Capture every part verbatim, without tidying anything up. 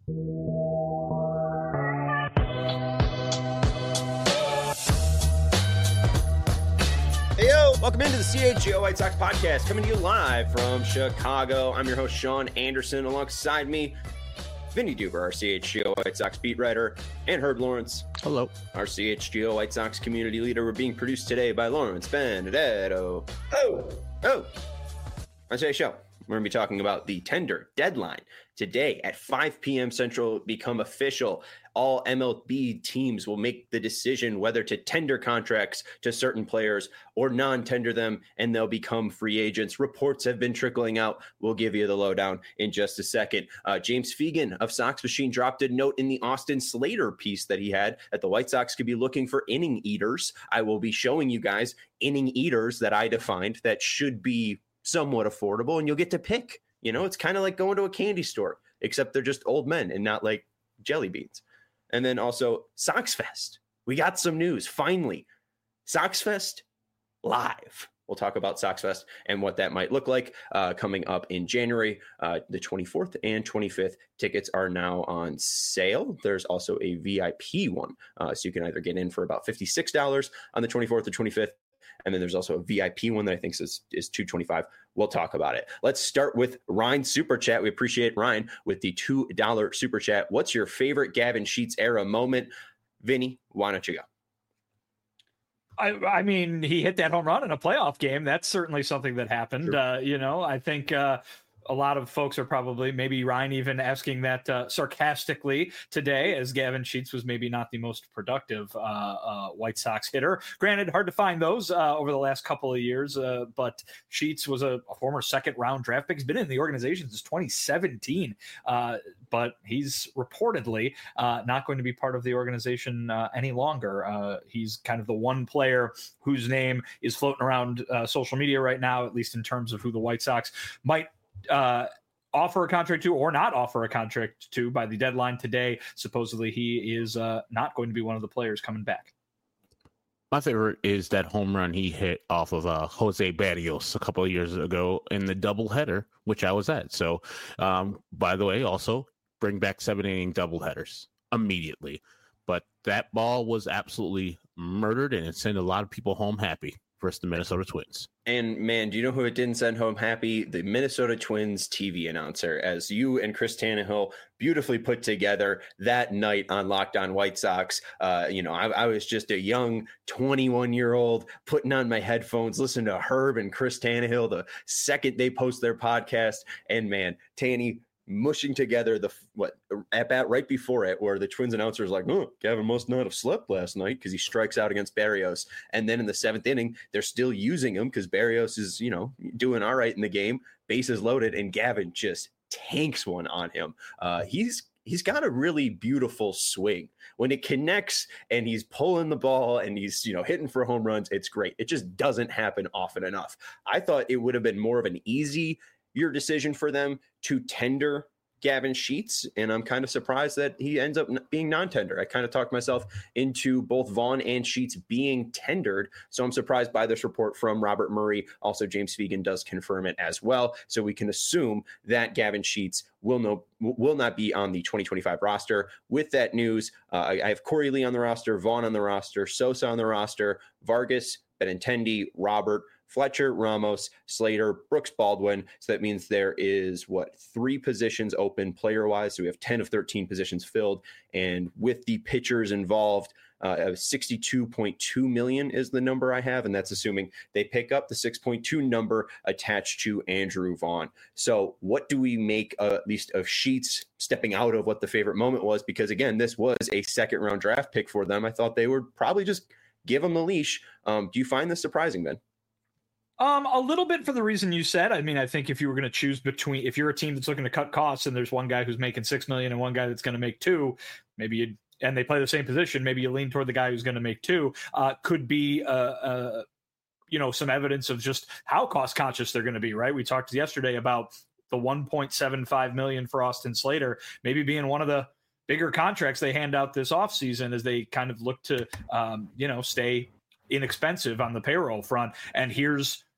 Hey, yo, welcome into the C H G O White Sox podcast, coming to you live from Chicago. I'm your host, Sean Anderson. Alongside me, Vinny Duber, our C H G O White Sox beat writer, and Herb Lawrence. Hello. Our C H G O White Sox community leader. We're being produced today by Lawrence Benedetto. Oh, oh. On today's show, we're going to be talking about the tender deadline. Today at five p.m. Central become official. All M L B teams will make the decision whether to tender contracts to certain players or non-tender them, and they'll become free agents. Reports have been trickling out. We'll give you the lowdown in just a second. Uh, James Fegan of Sox Machine dropped a note in the Austin Slater piece that he had that the White Sox could be looking for inning eaters. I will be showing you guys inning eaters that I defined that should be somewhat affordable, and you'll get to pick. You know, it's kind of like going to a candy store, except they're just old men and not like jelly beans. And then also Sox Fest. We got some news. Finally, Sox Fest live. We'll talk about Sox Fest and what that might look like uh, coming up in January, uh, the twenty-fourth and twenty-fifth. Tickets are now on sale. There's also a V I P one. Uh, so you can either get in for about fifty-six dollars on the twenty-fourth or twenty-fifth. And then there's also a V I P one that I think is, is two hundred twenty-five dollars. We'll talk about it. Let's start with Ryan Super Chat. We appreciate Ryan with the two dollars Super Chat. What's your favorite Gavin Sheets era moment? Vinny, why don't you go? I, I mean, he hit that home run in a playoff game. That's certainly something that happened. Sure. Uh, you know, I think uh, a lot of folks are probably, maybe Ryan even asking that uh, sarcastically today, as Gavin Sheets was maybe not the most productive uh, uh, White Sox hitter. Granted, hard to find those uh, over the last couple of years, uh, but Sheets was a, a former second-round draft pick. He's been in the organization since twenty seventeen, uh, but he's reportedly uh, not going to be part of the organization uh, any longer. Uh, he's kind of the one player whose name is floating around uh, social media right now, at least in terms of who the White Sox might uh offer a contract to or not offer a contract to by the deadline today. Supposedly he is uh not going to be one of the players coming back. My favorite is that home run he hit off of uh, Jose Barrios a couple of years ago in the doubleheader, which I was at. So, um, by the way, also bring back seven inning doubleheaders immediately. But that ball was absolutely murdered, and it sent a lot of people home happy versus the Minnesota Twins. And man, do you know who it didn't send home happy? The Minnesota Twins T V announcer, as you and Chris Tannehill beautifully put together that night on Locked On White Sox. Uh, you know, I, I was just a young twenty-one year old putting on my headphones, listening to Herb and Chris Tannehill the second they post their podcast. And man, Tanny mushing together the what at bat right before it, where the Twins announcer is like, "Oh, Gavin must not have slept last night," because he strikes out against Barrios. And then in the seventh inning, they're still using him because Barrios is, you know, doing all right in the game, bases loaded, and Gavin just tanks one on him. Uh, he's he's got a really beautiful swing when it connects, and he's pulling the ball and he's, you know, hitting for home runs. It's great. It just doesn't happen often enough. I thought it would have been more of an easy your decision for them to tender Gavin Sheets, and I'm kind of surprised that he ends up being non-tender. I kind of talked myself into both Vaughn and Sheets being tendered, so I'm surprised by this report from Robert Murray. Also, James Fegan does confirm it as well, so we can assume that Gavin Sheets will no will not be on the twenty twenty-five roster. With that news, uh, I, I have Corey Lee on the roster, Vaughn on the roster, Sosa on the roster, Vargas, Benintendi, Robert, Fletcher, Ramos, Slater, Brooks, Baldwin. So that means there is, what, three positions open player-wise. So we have ten of thirteen positions filled. And with the pitchers involved, uh, sixty-two point two million is the number I have. And that's assuming they pick up the six point two number attached to Andrew Vaughn. So what do we make, uh, at least of Sheets stepping out of what the favorite moment was? Because, again, this was a second-round draft pick for them. I thought they would probably just give him the leash. Um, do you find this surprising, Ben? Um, a little bit for the reason you said. I mean, I think if you were going to choose between, if you're a team that's looking to cut costs and there's one guy who's making six million and one guy that's going to make two, maybe you and they play the same position, maybe you lean toward the guy who's going to make two. Uh, could be uh, uh, you know, some evidence of just how cost conscious they're going to be. Right? We talked yesterday about the one point seven five million for Austin Slater, maybe being one of the bigger contracts they hand out this offseason as they kind of look to um, you know, stay inexpensive on the payroll front. And here's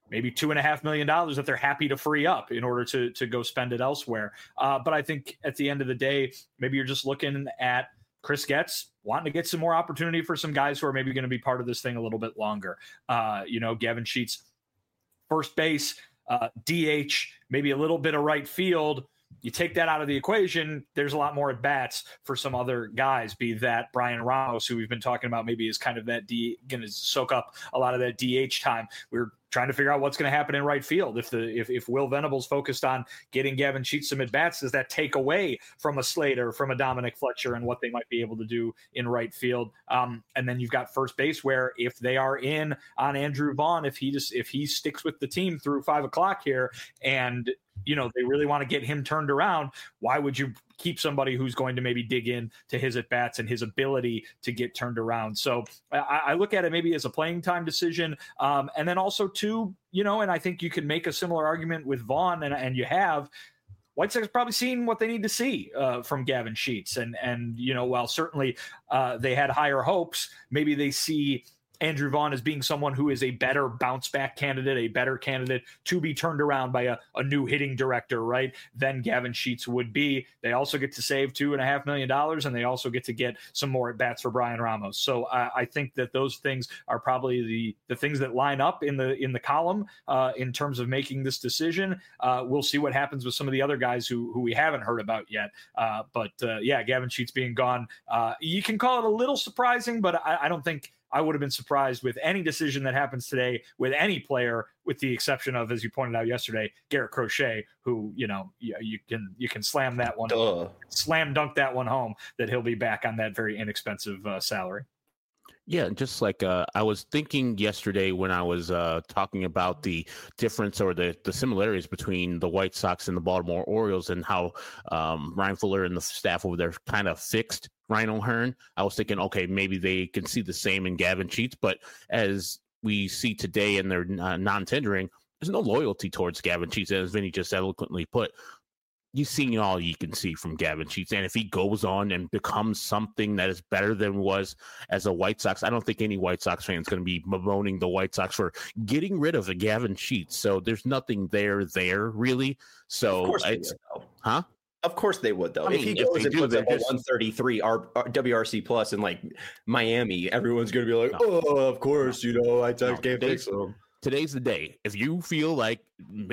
maybe two and a half million dollars that they're happy to free up in order to to go spend it elsewhere. Uh, but I think at the end of the day, maybe you're just looking at Chris Getz wanting to get some more opportunity for some guys who are maybe going to be part of this thing a little bit longer. Uh, you know, Gavin Sheets, first base, uh, D H, maybe a little bit of right field. You take that out of the equation, there's a lot more at bats for some other guys, be that Brian Ramos, who we've been talking about, maybe is kind of that D, going to soak up a lot of that D H time. We're trying to figure out what's going to happen in right field. If the if, if Will Venables focused on getting Gavin Sheets some at bats, does that take away from a Slater, from a Dominic Fletcher, and what they might be able to do in right field? Um, and then you've got first base, where if they are in on Andrew Vaughn, if he just if he sticks with the team through five o'clock here, and you know, they really want to get him turned around, why would you keep somebody who's going to maybe dig in to his at-bats and his ability to get turned around? So I, I look at it maybe as a playing time decision. Um, and then also, too, you know, and I think you can make a similar argument with Vaughn, and, and you have, White Sox probably seen what they need to see uh, from Gavin Sheets. And, and you know, while certainly uh, they had higher hopes, maybe they see Andrew Vaughn as being someone who is a better bounce back candidate, a better candidate to be turned around by a, a new hitting director, right, than Gavin Sheets would be. They also get to save two and a half million dollars, and they also get to get some more at bats for Brian Ramos. So uh, I think that those things are probably the the things that line up in the in the column uh, in terms of making this decision. Uh, we'll see what happens with some of the other guys who who we haven't heard about yet. Uh, but uh, yeah, Gavin Sheets being gone, uh, you can call it a little surprising, but I, I don't think I would have been surprised with any decision that happens today with any player, with the exception of, as you pointed out yesterday, Garrett Crochet, who, you know, you, you can you can slam that one, Duh. slam dunk that one home, that he'll be back on that very inexpensive uh, salary. Yeah, just like uh, I was thinking yesterday when I was uh, talking about the difference or the, the similarities between the White Sox and the Baltimore Orioles, and how um, Ryan Fuller and the staff over there kind of fixed Ryan O'Hearn. I was thinking, okay, maybe they can see the same in Gavin Sheets, but as we see today in their uh, non-tendering, there's no loyalty towards Gavin Sheets, as Vinny just eloquently put. You've seen all you can see from Gavin Sheets. And if he goes on and becomes something that is better than was as a White Sox, I don't think any White Sox fan is going to be bemoaning the White Sox for getting rid of a Gavin Sheets. So there's nothing there, there really. So, of course they it's, would, though. Huh? Of course they would, though. I if mean, he if goes they and do, puts up a just- one thirty-three R, R, W R C plus in like Miami, everyone's going to be like, No. oh, of course, you know, I No, can't they- fix them. Today's the day. If you feel like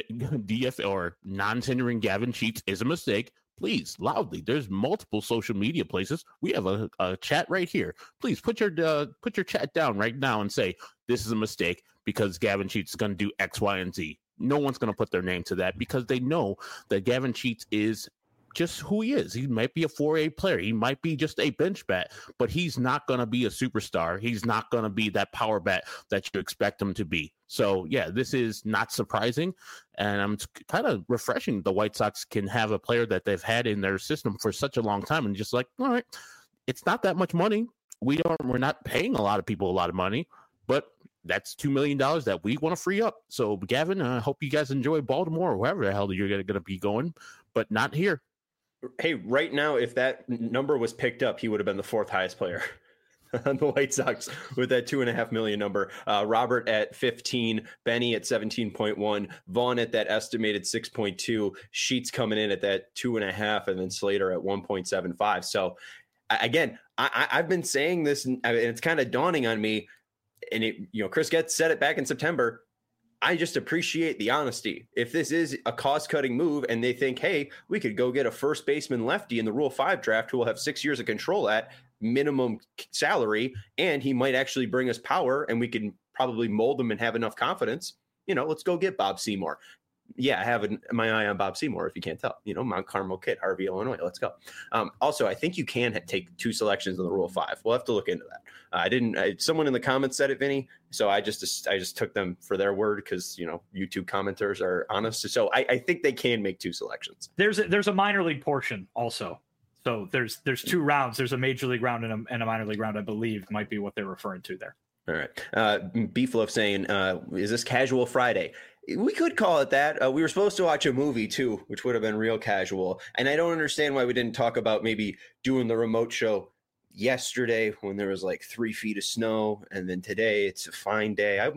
D F or non-tendering Gavin Sheets is a mistake, please, loudly. There's multiple social media places. We have a, a chat right here. Please put your uh, put your chat down right now and say this is a mistake because Gavin Sheets is going to do X, Y, and Z. No one's going to put their name to that because they know that Gavin Sheets is just who he is. He might be a four A player. He might be just a bench bat, but he's not going to be a superstar. He's not going to be that power bat that you expect him to be. So, yeah, this is not surprising, and I'm kind of refreshing. The White Sox can have a player that they've had in their system for such a long time, and just like, all right, it's not that much money. We don't, we're not paying a lot of people a lot of money, but that's two million dollars that we want to free up. So, Gavin, I hope you guys enjoy Baltimore or wherever the hell you're going to be going, but not here. Hey, right now, if that number was picked up, he would have been the fourth highest player on the White Sox with that two and a half million number. Uh, Robert at fifteen, Benny at seventeen point one, Vaughn at that estimated six point two, Sheets coming in at that two and a half, and then Slater at one point seven five. So again, I, I've been saying this, and it's kind of dawning on me. And it, you know, Chris Getz said it back in September. I just appreciate the honesty. If this is a cost-cutting move and they think, hey, we could go get a first baseman lefty in the Rule five draft who will have six years of control at minimum salary, and he might actually bring us power, and we can probably mold him and have enough confidence, you know, let's go get Bob Seymour. Yeah, I have an, my eye on Bob Seymour, if you can't tell. You know, Mount Carmel kid, Harvey, Illinois. Let's go. Um, also, I think you can ha- take two selections in the Rule Five. We'll have to look into that. Uh, I didn't. I, someone in the comments said it, Vinny. So I just I just took them for their word because, you know, YouTube commenters are honest. So I, I think they can make two selections. There's a, there's a minor league portion also. So there's there's two rounds. There's a major league round and a, and a minor league round, I believe, might be what they're referring to there. All right. Uh, Beefloaf saying, uh, is this Casual Friday? We could call it that. Uh, we were supposed to watch a movie, too, which would have been real casual. And I don't understand why we didn't talk about maybe doing the remote show yesterday when there was like three feet of snow. And then today it's a fine day. I would have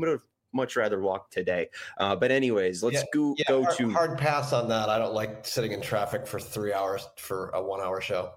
much rather walk today. Uh, but anyways, let's yeah, go, yeah, go hard, to hard pass on that. I don't like sitting in traffic for three hours for a one hour show.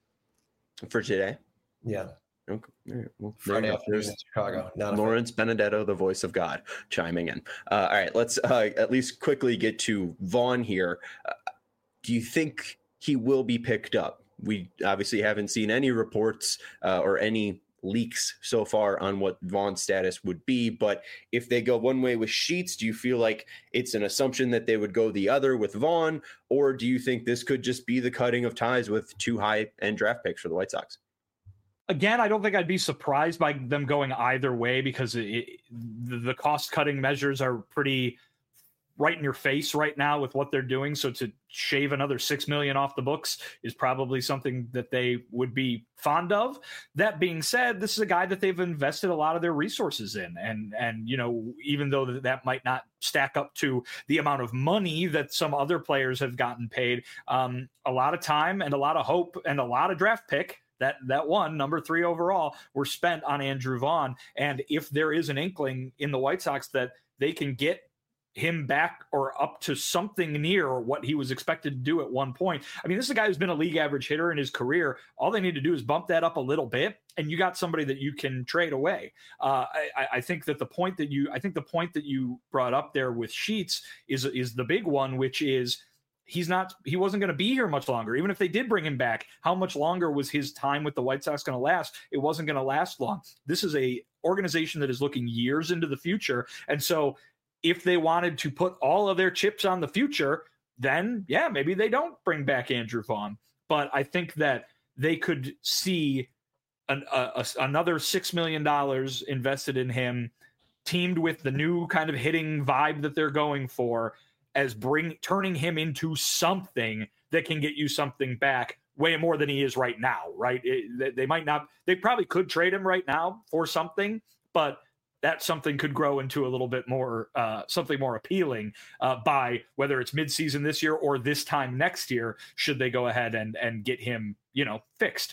For today. Yeah. Okay. All right. Well, Friday afternoon in Chicago. Not Lawrence Benedetto, the voice of God, chiming in. Uh, all right, let's uh, at least quickly get to Vaughn here. Uh, do you think he will be picked up? We obviously haven't seen any reports uh, or any leaks so far on what Vaughn's status would be, but if they go one way with Sheets, do you feel like it's an assumption that they would go the other with Vaughn, or do you think this could just be the cutting of ties with two high-end draft picks for the White Sox? Again, I don't think I'd be surprised by them going either way, because it, the cost-cutting measures are pretty right in your face right now with what they're doing. So to shave another six million dollars off the books is probably something that they would be fond of. That being said, this is a guy that they've invested a lot of their resources in. And, and you know, even though that might not stack up to the amount of money that some other players have gotten paid, um, a lot of time and a lot of hope and a lot of draft pick that that one, number three overall, were spent on Andrew Vaughn. And if there is an inkling in the White Sox that they can get him back or up to something near what he was expected to do at one point. I mean, this is a guy who's been a league average hitter in his career. All they need to do is bump that up a little bit, and you got somebody that you can trade away. Uh, I, I think that the point that you, I think the point that you brought up there with Sheets is, is the big one, which is he's not, he wasn't going to be here much longer. Even if they did bring him back, how much longer was his time with the White Sox going to last? It wasn't going to last long. This is a organization that is looking years into the future. And so if they wanted to put all of their chips on the future, then yeah, maybe they don't bring back Andrew Vaughn. But I think that they could see an, a, a, another six million dollars invested in him, teamed with the new kind of hitting vibe that they're going for, as bring turning him into something that can get you something back way more than he is right now, right? It, they might not, they probably could trade him right now for something, but that something could grow into a little bit more, uh, something more appealing uh, by whether it's midseason this year or this time next year, should they go ahead and, and get him, you know, fixed.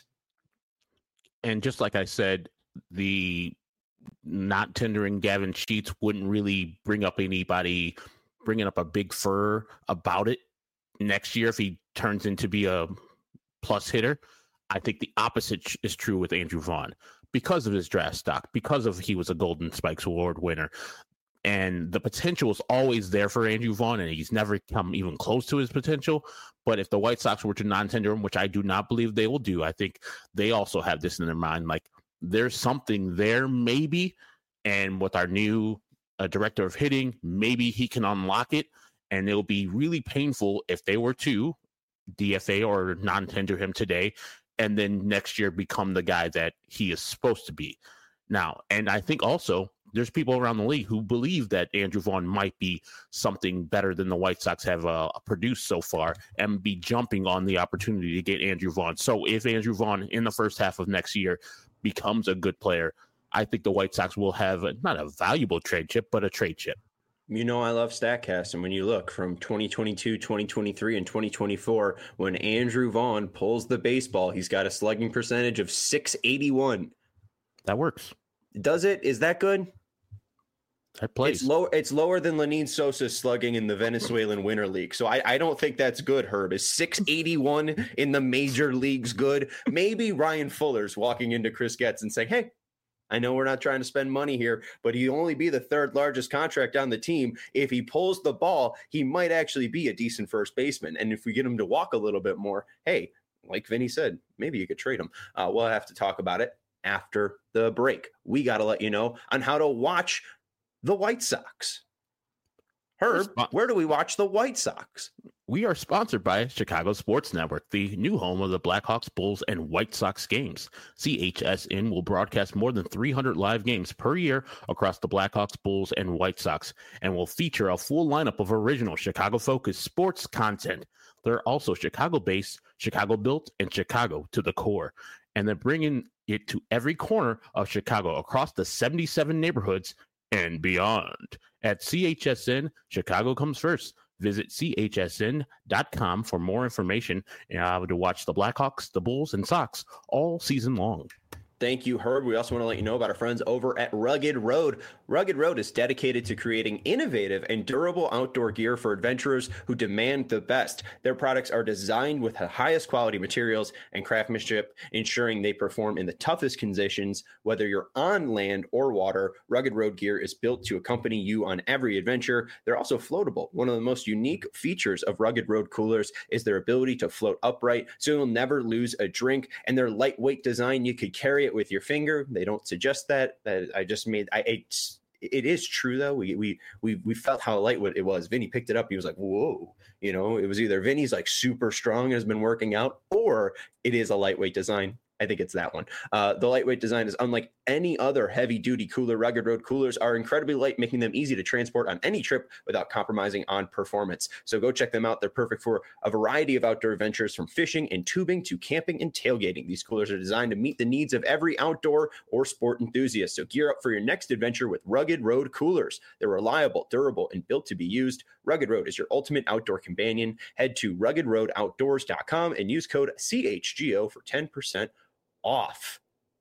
And just like I said, the not tendering Gavin Sheets wouldn't really bring up anybody bringing up a big fur about it next year if he turns into be a plus hitter. I think the opposite is true with Andrew Vaughn because of his draft stock, because of he was a Golden Spikes Award winner. And the potential is always there for Andrew Vaughn, and he's never come even close to his potential. But if the White Sox were to non-tender him, which I do not believe they will do, I think they also have this in their mind, like there's something there maybe, and with our new uh, director of hitting, maybe he can unlock it, and it'll be really painful if they were to D F A or non-tender him today, and then next year become the guy that he is supposed to be now. And I think also there's people around the league who believe that Andrew Vaughn might be something better than the White Sox have uh, produced so far and be jumping on the opportunity to get Andrew Vaughn. So if Andrew Vaughn in the first half of next year becomes a good player, I think the White Sox will have a, not a valuable trade chip, but a trade chip. You know, I love StatCast. And when you look from twenty twenty-two, twenty twenty-three, and twenty twenty-four, when Andrew Vaughn pulls the baseball, he's got a slugging percentage of six eighty-one. That works. Does it? Is that good? That plays. It's low. It's lower than Lenin Sosa's slugging in the Venezuelan Winter League. So I, I don't think that's good, Herb. Is six eighty-one in the major leagues good? Maybe Ryan Fuller's walking into Chris Getz and saying, hey, I know we're not trying to spend money here, but he'd only be the third largest contract on the team. If he pulls the ball, he might actually be a decent first baseman. And if we get him to walk a little bit more, hey, like Vinny said, maybe you could trade him. Uh, we'll have to talk about it after the break. We got to let you know on how to watch the White Sox. Herb, where do we watch the White Sox? We are sponsored by Chicago Sports Network, the new home of the Blackhawks, Bulls, and White Sox games. C H S N will broadcast more than three hundred live games per year across the Blackhawks, Bulls, and White Sox, and will feature a full lineup of original Chicago-focused sports content. They're also Chicago-based, Chicago-built, and Chicago to the core. And they're bringing it to every corner of Chicago across the seventy-seven neighborhoods and beyond. At C H S N, Chicago comes first. Visit C H S N dot com for more information uh, to watch the Blackhawks, the Bulls, and Sox all season long. Thank you, Herb. We also want to let you know about our friends over at Rugged Road. Rugged Road is dedicated to creating innovative and durable outdoor gear for adventurers who demand the best. Their products are designed with the highest quality materials and craftsmanship, ensuring they perform in the toughest conditions. Whether you're on land or water, Rugged Road gear is built to accompany you on every adventure. They're also floatable. One of the most unique features of Rugged Road coolers is their ability to float upright, so you'll never lose a drink. And their lightweight design, you could carry it with your finger. They don't suggest that. That I just made. I it's, it is true though. We we we we felt how lightweight it was. Vinny picked it up. He was like, "Whoa!" You know, it was either Vinny's like super strong, has been working out, or it is a lightweight design. I think it's that one. Uh, the lightweight design is unlike any other heavy-duty cooler. Rugged Road coolers are incredibly light, making them easy to transport on any trip without compromising on performance. So go check them out. They're perfect for a variety of outdoor adventures, from fishing and tubing to camping and tailgating. These coolers are designed to meet the needs of every outdoor or sport enthusiast. So gear up for your next adventure with Rugged Road coolers. They're reliable, durable, and built to be used. Rugged Road is your ultimate outdoor companion. Head to rugged road outdoors dot com and use code C H G O for ten percent off.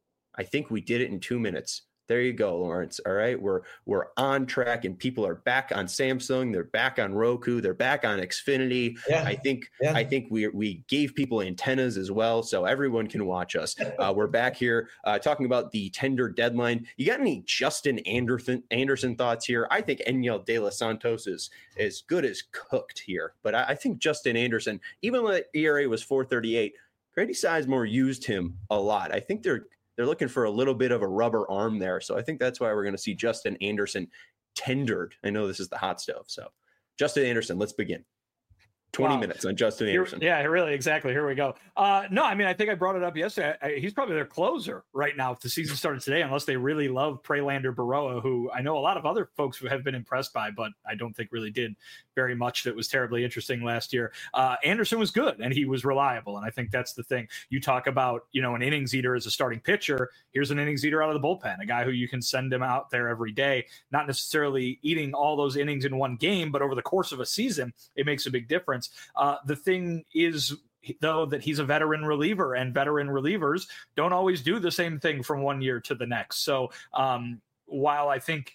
I think we did it in two minutes. There you go, Lawrence. All right. We're we're on track, and people are back on Samsung. They're back on Roku. They're back on Xfinity. Yeah. I think yeah. I think we we gave people antennas as well, so everyone can watch us. Uh, we're back here uh, talking about the tender deadline. You got any Justin Anderson Anderson thoughts here? I think Enyel De Los Santos is as good as cooked here, but I, I think Justin Anderson, even when the E R A was four thirty-eight, Grady Sizemore used him a lot. I think they're they're looking for a little bit of a rubber arm there. So I think that's why we're going to see Justin Anderson tendered. I know this is the hot stove. So Justin Anderson, let's begin. twenty wow. minutes on Justin Anderson. Here, yeah, really, exactly. Here we go. Uh, no, I mean, I think I brought it up yesterday. I, he's probably their closer right now if the season started today, unless they really love Prelander Baroa, who I know a lot of other folks who have been impressed by, but I don't think really did very much that was terribly interesting last year. Uh, Anderson was good, and he was reliable, and I think that's the thing. You talk about, you know, an innings eater as a starting pitcher. Here's an innings eater out of the bullpen, a guy who you can send him out there every day, not necessarily eating all those innings in one game, but over the course of a season, it makes a big difference. Uh, the thing is, though, that he's a veteran reliever, and veteran relievers don't always do the same thing from one year to the next. So um, while I think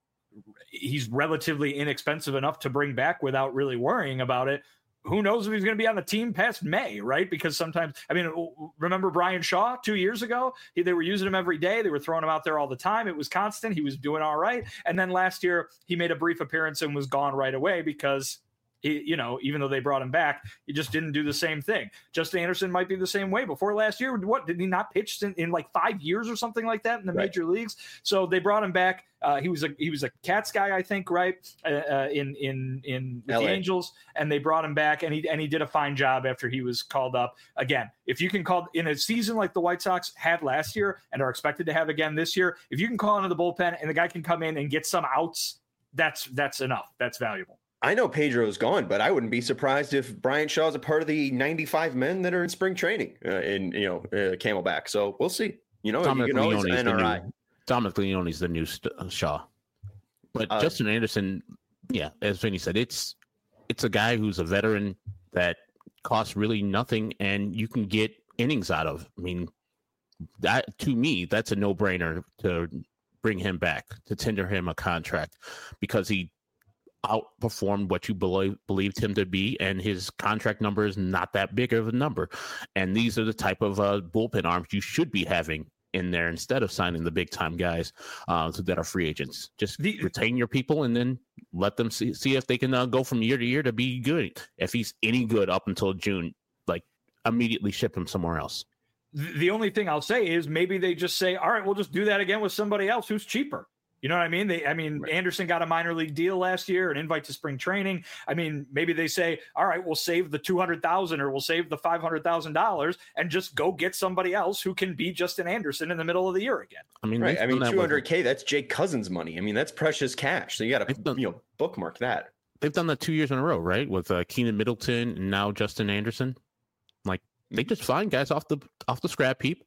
he's relatively inexpensive enough to bring back without really worrying about it, who knows if he's going to be on the team past May, right? Because sometimes, I mean, remember Brian Shaw two years ago? He, they were using him every day. They were throwing him out there all the time. It was constant. He was doing all right. And then last year, he made a brief appearance and was gone right away because he, you know, even though they brought him back, he just didn't do the same thing. Justin Anderson might be the same way. Before last year, what did he not pitch in, in like five years or something like that in the right. major leagues? So they brought him back. Uh, he was a he was a Cats guy, I think, right? Uh, uh, in in in with the Angels, and they brought him back, and he and he did a fine job after he was called up. Again, if you can call in a season like the White Sox had last year and are expected to have again this year, if you can call into the bullpen and the guy can come in and get some outs, that's that's enough. That's valuable. I know Pedro's gone, but I wouldn't be surprised if Brian Shaw is a part of the ninety-five men that are in spring training uh, in, you know, uh, Camelback. So we'll see. You know, Dominic you can always N R I. Dominic Leone's the new st- Shaw. But uh, Justin Anderson, yeah, as Vinny said, it's it's a guy who's a veteran that costs really nothing, and you can get innings out of. I mean, that to me, that's a no-brainer to bring him back, to tender him a contract, because he outperformed what you believe, believed him to be, and his contract number is not that big of a number. And these are the type of uh, bullpen arms you should be having in there instead of signing the big time guys uh, that are free agents. Just the, retain your people and then let them see, see if they can uh, go from year to year to be good. If he's any good up until June, like immediately ship him somewhere else. The only thing I'll say is maybe they just say, all right, we'll just do that again with somebody else who's cheaper. You know what I mean? They, I mean, right. Anderson got a minor league deal last year, an invite to spring training. I mean, maybe they say, all right, we'll save the two hundred thousand dollars or we'll save the five hundred thousand dollars and just go get somebody else who can be Justin Anderson in the middle of the year again. I mean, right. I mean, two hundred K, that's Jake Cousins money. I mean, that's precious cash. So you got to, you know, bookmark that. They've done that two years in a row, right? With uh, Keenan Middleton and now Justin Anderson. Like, they just find guys off the off the scrap heap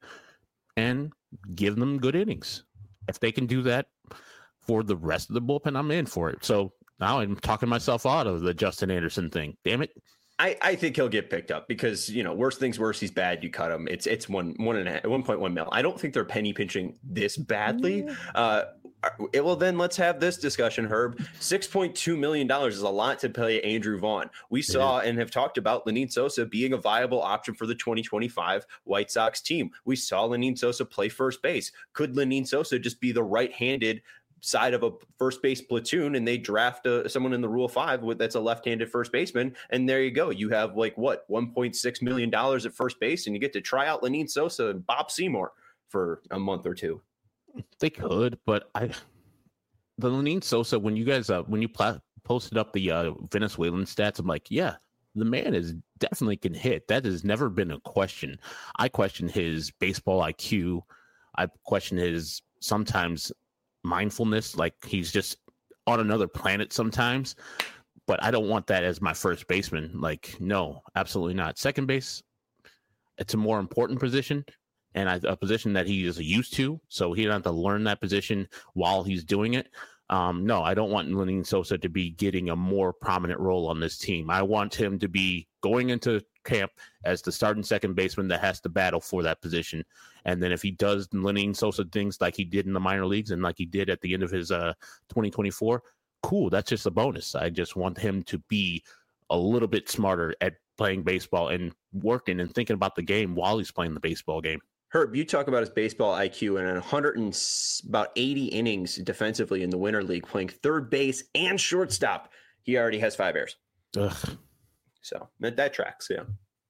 and give them good innings. If they can do that for the rest of the bullpen, I'm in for it. So now I'm talking myself out of the Justin Anderson thing. Damn it. I, I think he'll get picked up because, you know, worst things worse, he's bad. You cut him. It's it's one one and a half, one point one mil. I don't think they're penny pinching this badly. Uh, it, well, then let's have this discussion, Herb. six point two million dollars is a lot to pay Andrew Vaughn. We saw yeah. and have talked about Lenyn Sosa being a viable option for the twenty twenty-five White Sox team. We saw Lenyn Sosa play first base. Could Lenyn Sosa just be the right-handed side of a first base platoon and they draft a, someone in the Rule Five with that's a left-handed first baseman, and there you go. You have like what one point six million dollars at first base, and you get to try out Lenyn Sosa and Bob Seymour for a month or two. They could, but I the Lenyn Sosa when you guys uh, when you pla- posted up the uh, Venezuelan stats, I'm like, yeah, the man is definitely can hit. That has never been a question. I question his baseball I Q. I question his sometimes mindfulness, like he's just on another planet sometimes, but I don't want that as my first baseman. Like, no, absolutely not. Second base, it's a more important position and I, a position that he is used to, so he doesn't have to learn that position while he's doing it. Um, no, I don't want Lenyn Sosa to be getting a more prominent role on this team. I want him to be going into camp as the starting second baseman that has to battle for that position. And then if he does Lenyn Sosa things like he did in the minor leagues and like he did at the end of his uh, twenty twenty-four, cool. That's just a bonus. I just want him to be a little bit smarter at playing baseball and working and thinking about the game while he's playing the baseball game. Herb, you talk about his baseball I Q and one hundred and about eighty innings defensively in the Winter League, playing third base and shortstop. He already has five errors. Ugh. So that, that tracks, yeah.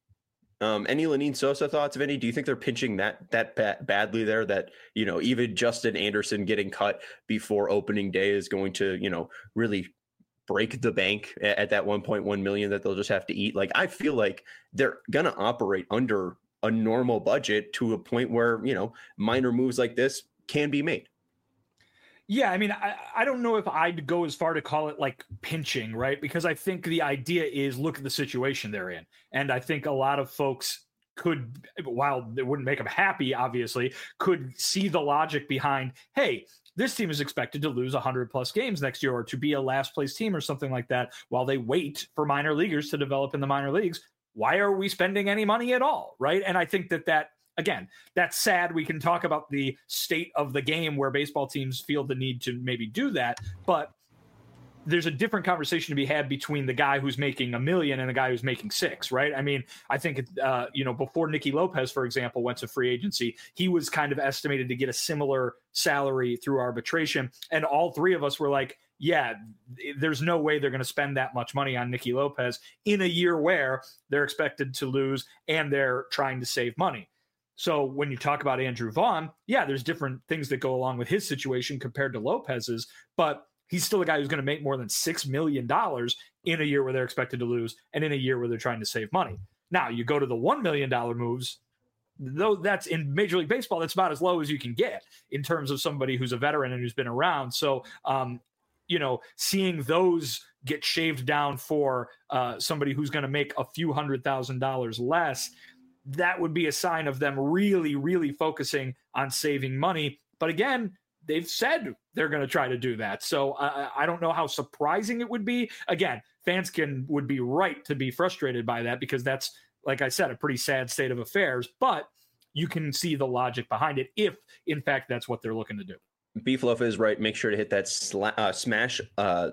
Um, any Lenyn Sosa thoughts, Vinny? Do you think they're pinching that that ba- badly there? That, you know, even Justin Anderson getting cut before opening day is going to, you know, really break the bank at, at that one point one million that they'll just have to eat? Like, I feel like they're going to operate under a normal budget to a point where, you know, minor moves like this can be made. Yeah, I mean, I, I don't know if I'd go as far to call it like pinching, right? Because I think the idea is look at the situation they're in. And I think a lot of folks could, while it wouldn't make them happy, obviously, could see the logic behind, hey, this team is expected to lose one hundred plus games next year or to be a last place team or something like that while they wait for minor leaguers to develop in the minor leagues. Why are we spending any money at all, right? And I think that that, again, that's sad. We can talk about the state of the game where baseball teams feel the need to maybe do that, but there's a different conversation to be had between the guy who's making a million and the guy who's making six, right? I mean, I think, uh, you know, before Nicky Lopez, for example, went to free agency, he was kind of estimated to get a similar salary through arbitration. And all three of us were like, yeah, there's no way they're going to spend that much money on Nicky Lopez in a year where they're expected to lose and they're trying to save money. So when you talk about Andrew Vaughn, yeah, there's different things that go along with his situation compared to Lopez's, but he's still a guy who's going to make more than six million dollars in a year where they're expected to lose and in a year where they're trying to save money. Now, you go to the one million dollars moves, though that's in Major League Baseball, that's about as low as you can get in terms of somebody who's a veteran and who's been around. So, um, you know, seeing those get shaved down for uh, somebody who's going to make a few hundred thousand dollars less, that would be a sign of them really, really focusing on saving money. But again, they've said they're going to try to do that. So uh, I don't know how surprising it would be. Again, fans can would be right to be frustrated by that because that's, like I said, a pretty sad state of affairs. But you can see the logic behind it if, in fact, that's what they're looking to do. Beefloaf is right. Make sure to hit that sla- uh, smash. Uh,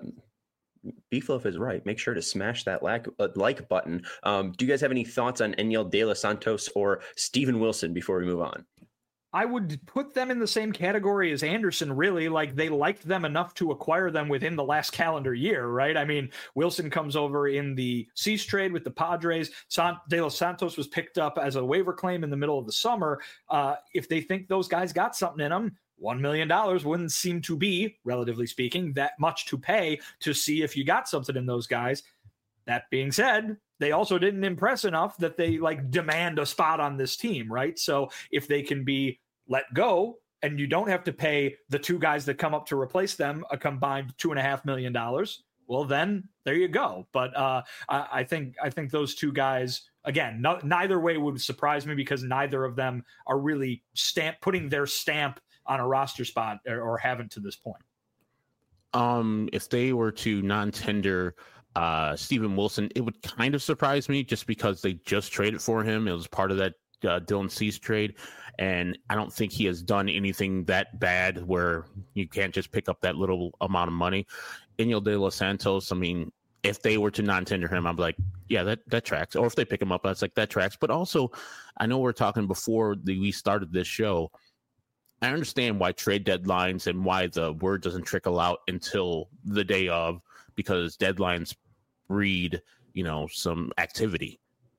Beefloaf is right. Make sure to smash that like, uh, like button. Um, do you guys have any thoughts on Enyel De Los Santos or Steven Wilson before we move on? I would put them in the same category as Anderson, really. Like, they liked them enough to acquire them within the last calendar year, right? I mean, Wilson comes over in the Cease trade with the Padres. San- De Los Santos was picked up as a waiver claim in the middle of the summer. Uh, if they think those guys got something in them, one million dollars wouldn't seem to be, relatively speaking, that much to pay to see if you got something in those guys. That being said, they also didn't impress enough that they like demand a spot on this team, right? So if they can be let go and you don't have to pay the two guys that come up to replace them a combined two and a half million dollars, well, then there you go. But uh, I, I think I think those two guys, again, no, neither way would surprise me because neither of them are really stamp putting their stamp on a roster spot or, or haven't to this point. Um, if they were to non-tender Uh, Steven Wilson, it would kind of surprise me just because they just traded for him. It was part of that uh, Dylan Cease trade. And I don't think he has done anything that bad where you can't just pick up that little amount of money. Iñigo De Los Santos, I mean, if they were to non-tender him, I'm like, yeah, that, that tracks. Or if they pick him up, I was like, that tracks. But also, I know we're talking before the, we started this show. I understand why trade deadlines and why the word doesn't trickle out until the day of, because deadlines breed, you know, some activity.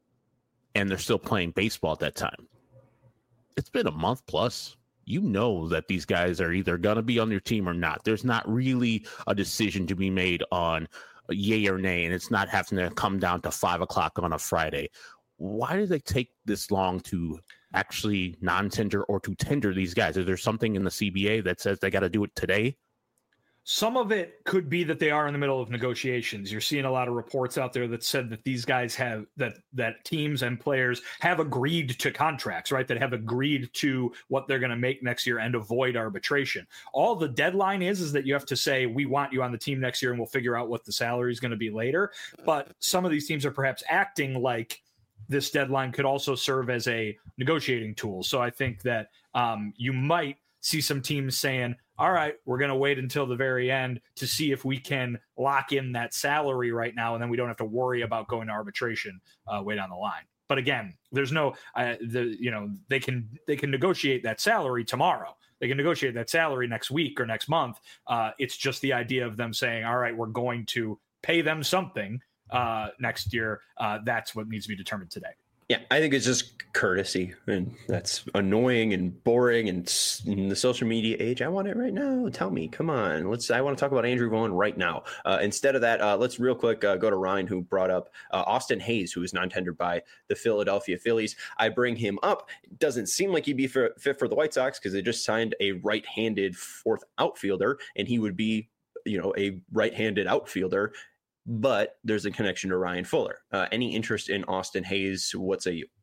And they're still playing baseball at that time. It's been a month plus. You know that these guys are either going to be on your team or not. There's not really a decision to be made on yay or nay, and it's not having to come down to five o'clock on a Friday. Why do they take this long to actually non-tender or to tender these guys? Is there something in the C B A that says they got to do it today? Some of it could be that they are in the middle of negotiations. You're seeing a lot of reports out there that said that these guys have that that teams and players have agreed to contracts, right? That have agreed to what they're going to make next year and avoid arbitration. All the deadline is is that you have to say, we want you on the team next year and we'll figure out what the salary is going to be later. But some of these teams are perhaps acting like this deadline could also serve as a negotiating tool. So I think that um, you might see some teams saying, all right, we're going to wait until the very end to see if we can lock in that salary right now, and then we don't have to worry about going to arbitration uh, way down the line. But again, there's no, uh, the you know, they can they can negotiate that salary tomorrow. They can negotiate that salary next week or next month. Uh, it's just the idea of them saying, all right, we're going to pay them something uh, next year. Uh, that's what needs to be determined today. Yeah, I think it's just courtesy, and that's annoying and boring. And in the social media age, I want it right now. Tell me, come on. Let's. I want to talk about Andrew Vaughn right now. Uh, instead of that, uh, let's real quick uh, go to Ryan, who brought up uh, Austin Hayes, who is non-tendered by the Philadelphia Phillies. I bring him up. It doesn't seem like he'd be for, fit for the White Sox because they just signed a right-handed fourth outfielder, and he would be, you know, a right-handed outfielder. But there's a connection to Ryan Fuller. Uh, any interest in Austin Hayes? What say you?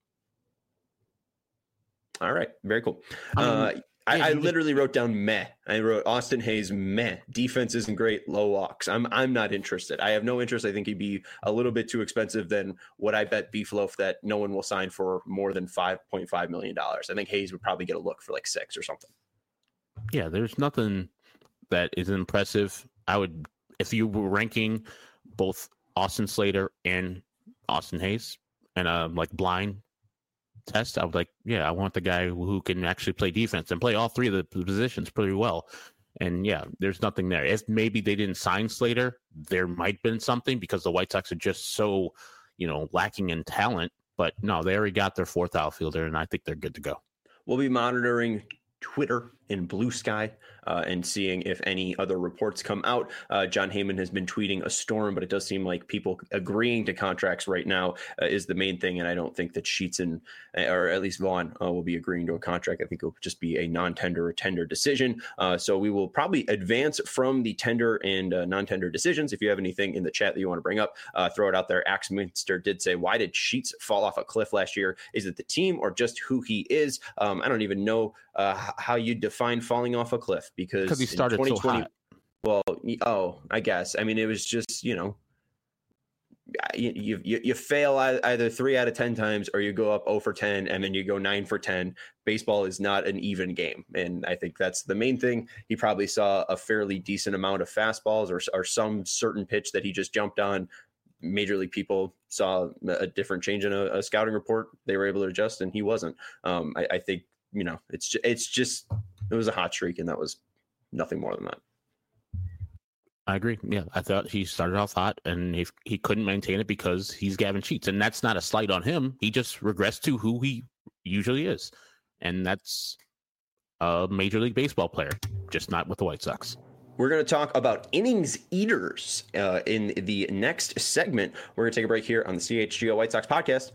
All right, very cool. Uh, I, I literally wrote down meh. I wrote Austin Hayes meh. Defense isn't great. Low walks. I'm I'm not interested. I have no interest. I think he'd be a little bit too expensive than what I bet Beefloaf that no one will sign for more than five point five million dollars. I think Hayes would probably get a look for like six or something. Yeah, there's nothing that is impressive. I would. If you were ranking both Austin Slater and Austin Hayes and a like blind test, I would like, yeah, I want the guy who can actually play defense and play all three of the positions pretty well. And yeah, there's nothing there. If maybe they didn't sign Slater, there might have been something because the White Sox are just so, you know, lacking in talent. But no, they already got their fourth outfielder, and I think they're good to go. We'll be monitoring Twitter and Blue Sky uh, and seeing if any other reports come out. Uh, John Heyman has been tweeting a storm, but it does seem like people agreeing to contracts right now uh, is the main thing. And I don't think that Sheets and, or at least Vaughn uh, will be agreeing to a contract. I think it'll just be a non-tender or tender decision. Uh, so we will probably advance from the tender and uh, non-tender decisions. If you have anything in the chat that you want to bring up, uh, throw it out there. Axminster did say, why did Sheets fall off a cliff last year? Is it the team or just who he is? Um, I don't even know uh, how you define falling off a cliff because he started so hot. Well, oh, I guess. I mean, it was just, you know, you you you fail either three out of ten times or you go up zero for ten and then you go nine for ten. Baseball is not an even game. And I think that's the main thing. He probably saw a fairly decent amount of fastballs or, or some certain pitch that he just jumped on. Major league people saw a different change in a, a scouting report. They were able to adjust and he wasn't. Um, I, I think, you know, it's it's just it was a hot streak and that was nothing more than that. I agree. Yeah, I thought he started off hot, and if he couldn't maintain it because he's Gavin Sheets, and that's not a slight on him. He just regressed to who he usually is, and that's a Major League Baseball player, just not with the White Sox. We're going to talk about innings eaters uh, in the next segment. We're going to take a break here on the C H G O White Sox podcast.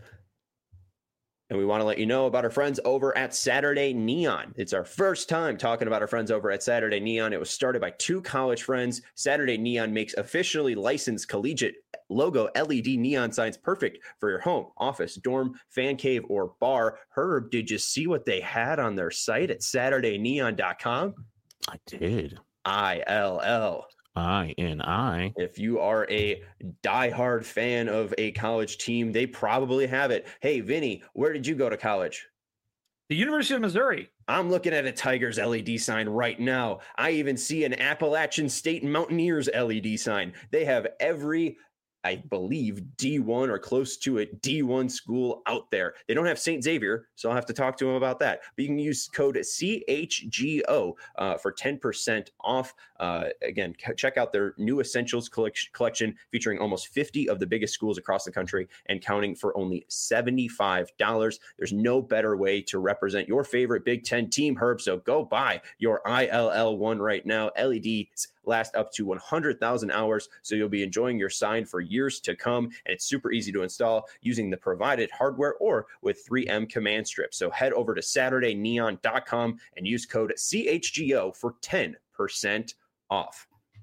And we want to let you know about our friends over at Saturday Neon. It's our first time talking about our friends over at Saturday Neon. It was started by two college friends. Saturday Neon makes officially licensed collegiate logo L E D neon signs perfect for your home, office, dorm, fan cave, or bar. Herb, did you see what they had on their site at saturday neon dot com? I did. I L L. I N I. If you are a diehard fan of a college team, they probably have it. Hey, Vinny, where did you go to college? The University of Missouri. I'm looking at a Tigers L E D sign right now. I even see an Appalachian State Mountaineers L E D sign. They have every, I believe, D one or close to it, D one school out there. They don't have Saint Xavier, so I'll have to talk to them about that. But you can use code C H G O uh, for ten percent off. Uh, again, check out their new Essentials collection featuring almost fifty of the biggest schools across the country and counting for only seventy-five dollars. There's no better way to represent your favorite Big Ten team, Herb, so go buy your I L L one right now. L E Ds last up to one hundred thousand hours, so you'll be enjoying your sign for years to come, and it's super easy to install using the provided hardware or with three M command strip. So head over to Saturday Neon dot com and use code C H G O for ten percent off.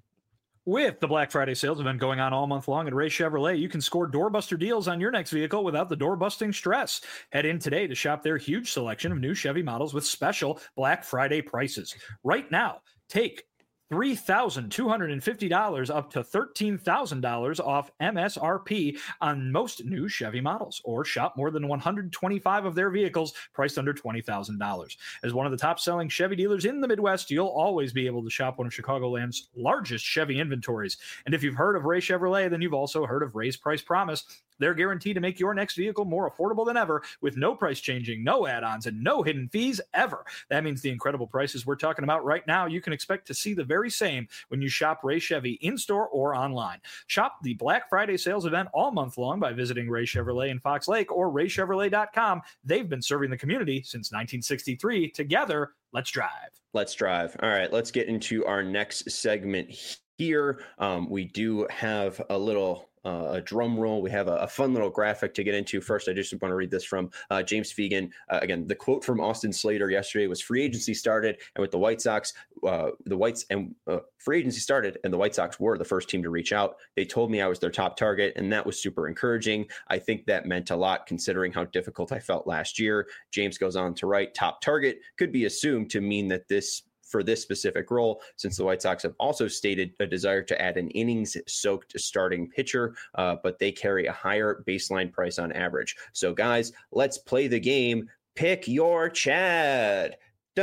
With the Black Friday sales event going on all month long at Ray Chevrolet, you can score doorbuster deals on your next vehicle without the door-busting stress. Head in today to shop their huge selection of new Chevy models with special Black Friday prices. Right now, take three thousand two hundred fifty dollars up to thirteen thousand dollars off M S R P on most new Chevy models, or shop more than one hundred twenty-five of their vehicles priced under twenty thousand dollars. As one of the top-selling Chevy dealers in the Midwest, you'll always be able to shop one of Chicagoland's largest Chevy inventories. And if you've heard of Ray Chevrolet, then you've also heard of Ray's Price Promise. They're guaranteed to make your next vehicle more affordable than ever with no price changing, no add-ons, and no hidden fees ever. That means the incredible prices we're talking about right now, you can expect to see the very same when you shop Ray Chevy in-store or online. Shop the Black Friday sales event all month long by visiting Ray Chevrolet in Fox Lake or ray chevrolet dot com. They've been serving the community since nineteen sixty-three. Together, let's drive. Let's drive. All right, let's get into our next segment here. Um, we do have a little... Uh, a drum roll. We have a, a fun little graphic to get into. First, I just want to read this from uh, James Fegan. Uh, again, the quote from Austin Slater yesterday was free agency started, and with the White Sox, uh, the Whites and uh, free agency started, and the White Sox were the first team to reach out. They told me I was their top target, and that was super encouraging. I think that meant a lot considering how difficult I felt last year. James goes on to write, top target could be assumed to mean that this for this specific role, since the White Sox have also stated a desire to add an innings-soaked starting pitcher, uh, but they carry a higher baseline price on average. So, guys, let's play the game. Pick your Chad.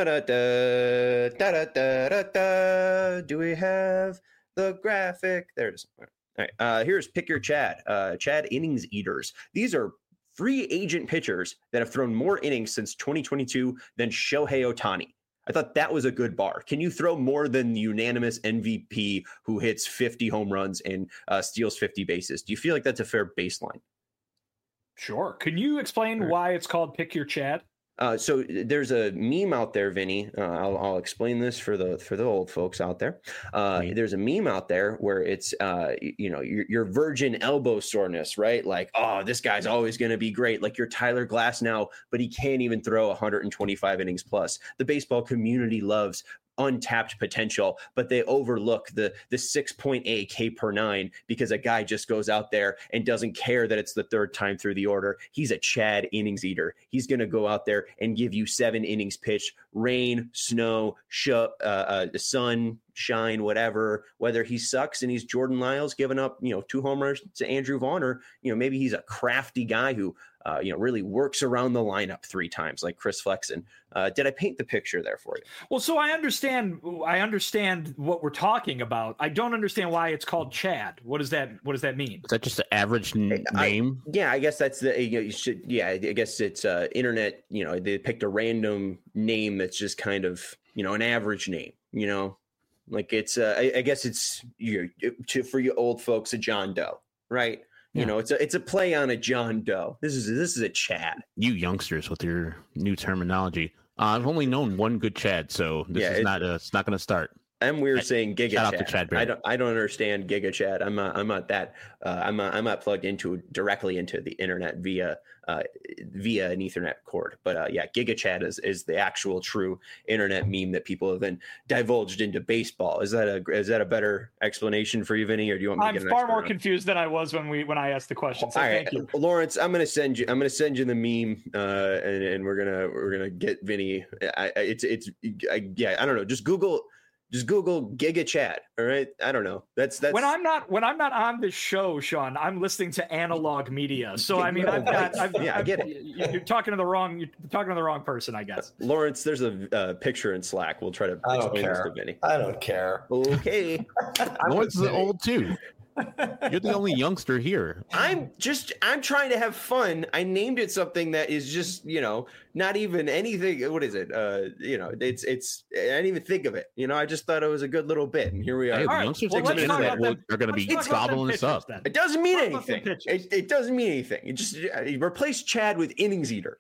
Da-da-da, da-da-da-da-da. Do we have the graphic? There it is. All right, uh, here's Pick Your Chad. Uh, Chad innings eaters. These are free agent pitchers that have thrown more innings since twenty twenty-two than Shohei Ohtani. I thought that was a good bar. Can you throw more than the unanimous M V P who hits fifty home runs and uh, steals fifty bases? Do you feel like that's a fair baseline? Sure. Can you explain right. why it's called Pick Your Chad? Uh, so there's a meme out there, Vinny. Uh, I'll, I'll explain this for the for the old folks out there. Uh, mm-hmm. There's a meme out there where it's uh, you know your, your virgin elbow soreness, right? Like, oh, this guy's always going to be great. Like you're Tyler Glasnow, but he can't even throw one hundred twenty-five innings plus. The baseball community loves untapped potential, but they overlook the the six point eight K per nine because a guy just goes out there and doesn't care that it's the third time through the order. He's a Chad innings eater. He's going to go out there and give you seven innings pitched, rain, snow, sh- uh, uh, sun, shine, whatever, whether he sucks and he's Jordan Lyles giving up, you know, two homers to Andrew Vaughn, or, you know, maybe he's a crafty guy who, uh, you know, really works around the lineup three times like Chris Flexen. Uh, did I paint the picture there for you? Well, so I understand, I understand what we're talking about. I don't understand why it's called Chad. What does that, what does that mean? Is that just the average n- I, name? Yeah, I guess that's the, you know, you should, yeah, I guess it's uh, internet, you know, they picked a random name that's just kind of, you know, an average name, you know, like it's, uh, I, I guess it's you to, for you old folks, a John Doe, right? You yeah. know, it's a it's a play on a John Doe. This is this is a Chad. You youngsters with your new terminology. Uh, I've only known one good Chad, so this yeah, is not uh, it's not going to start. I'm weird I, saying Giga shout Chad. Out to Chad I don't I don't understand Giga Chad. I'm not I'm not that uh, I'm not, I'm not plugged into directly into the internet via uh, via an Ethernet cord. But uh, yeah, Giga Chad is is the actual true internet meme that people have then divulged into baseball. Is that a is that a better explanation for you, Vinny, or do you want me I'm to get an far more round? confused than I was when we when I asked the question. So All thank right, you, Lawrence. I'm gonna send you I'm gonna send you the meme, uh, and and we're gonna we're gonna get Vinny. I, I, it's it's I, yeah. I don't know. Just Google. Just Google Giga Chad. All right. I don't know. That's that's when I'm not when I'm not on this show, Sean, I'm listening to analog media. So I mean, I've got I've, yeah, I've, I get it. You're talking to the wrong you're talking to the wrong person, I guess. Lawrence, there's a uh, picture in Slack. We'll try to I don't explain this care. to Vinny. I don't care. Okay. Lawrence is old too. You're the only youngster here. I'm just I'm trying to have fun. I named it something that is just, you know, not even anything. What is it? Uh, you know, it's it's I didn't even think of it. You know, I just thought it was a good little bit, and here we are. Hey, the right, youngsters well, on the let's talk internet about will- them- are going to be let's talk about gobbling them this up. pitchers, then. It doesn't mean Talk about some anything. pitches. It, it doesn't mean anything. It just uh, replace Chad with innings eater.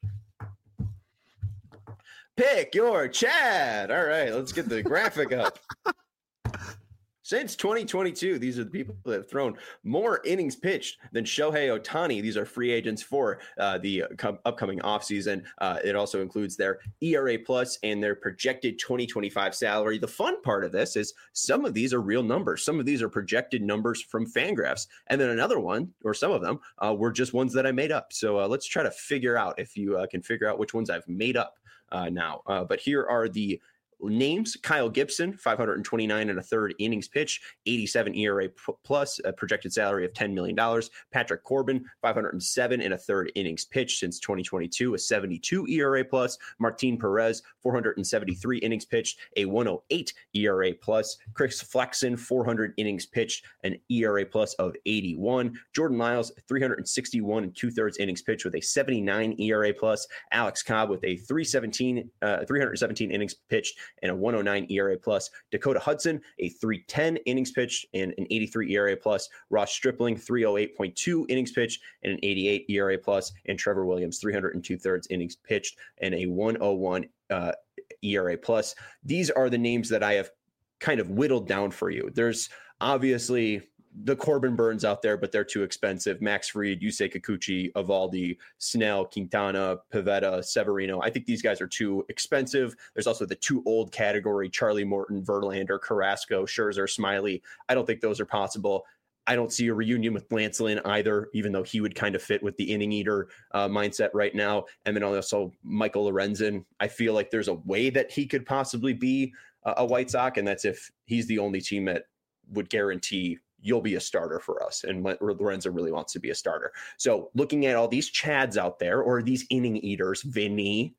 Pick your Chad. All right, let's get the graphic up. Since twenty twenty-two, these are the people that have thrown more innings pitched than Shohei Ohtani. These are free agents for uh, the com- upcoming offseason. Uh, it also includes their E R A plus and their projected twenty twenty-five salary. The fun part of this is some of these are real numbers. Some of these are projected numbers from Fangraphs. And then another one, or some of them, uh, were just ones that I made up. So uh, let's try to figure out if you uh, can figure out which ones I've made up uh, now. Uh, but here are the names. Kyle Gibson, five hundred twenty-nine and a third innings pitch, eighty-seven E R A p- plus, a projected salary of ten million dollars. Patrick Corbin, five hundred seven and a third innings pitch since twenty twenty-two, a seventy-two E R A plus. Martin Perez, four hundred seventy-three innings pitched, a one oh eight E R A plus. Chris Flexen, four hundred innings pitched, an E R A plus of eighty-one. Jordan Lyles, three hundred sixty-one and two thirds innings pitched with a seventy-nine E R A plus. Alex Cobb with a three seventeen, uh, three hundred seventeen innings pitched and a one oh nine E R A plus. Dakota Hudson, a three ten innings pitched and an eighty-three E R A plus. Ross Stripling, three oh eight point two innings pitched and an eighty-eight E R A plus. And Trevor Williams, three hundred two thirds innings pitched and a one oh one uh, E R A plus. These are the names that I have kind of whittled down for you. There's obviously the Corbin Burns out there, but they're too expensive. Max Fried, Yusei Kikuchi, Evaldi, Snell, Quintana, Pivetta, Severino. I think these guys are too expensive. There's also the too old category, Charlie Morton, Verlander, Carrasco, Scherzer, Smiley. I don't think those are possible. I don't see a reunion with Lance Lynn either, even though he would kind of fit with the inning eater uh, mindset right now. And then also Michael Lorenzen. I feel like there's a way that he could possibly be a, a White Sox, and that's if he's the only team that would guarantee you'll be a starter for us. And Lorenzo really wants to be a starter. So looking at all these Chads out there, or these inning eaters, Vinny.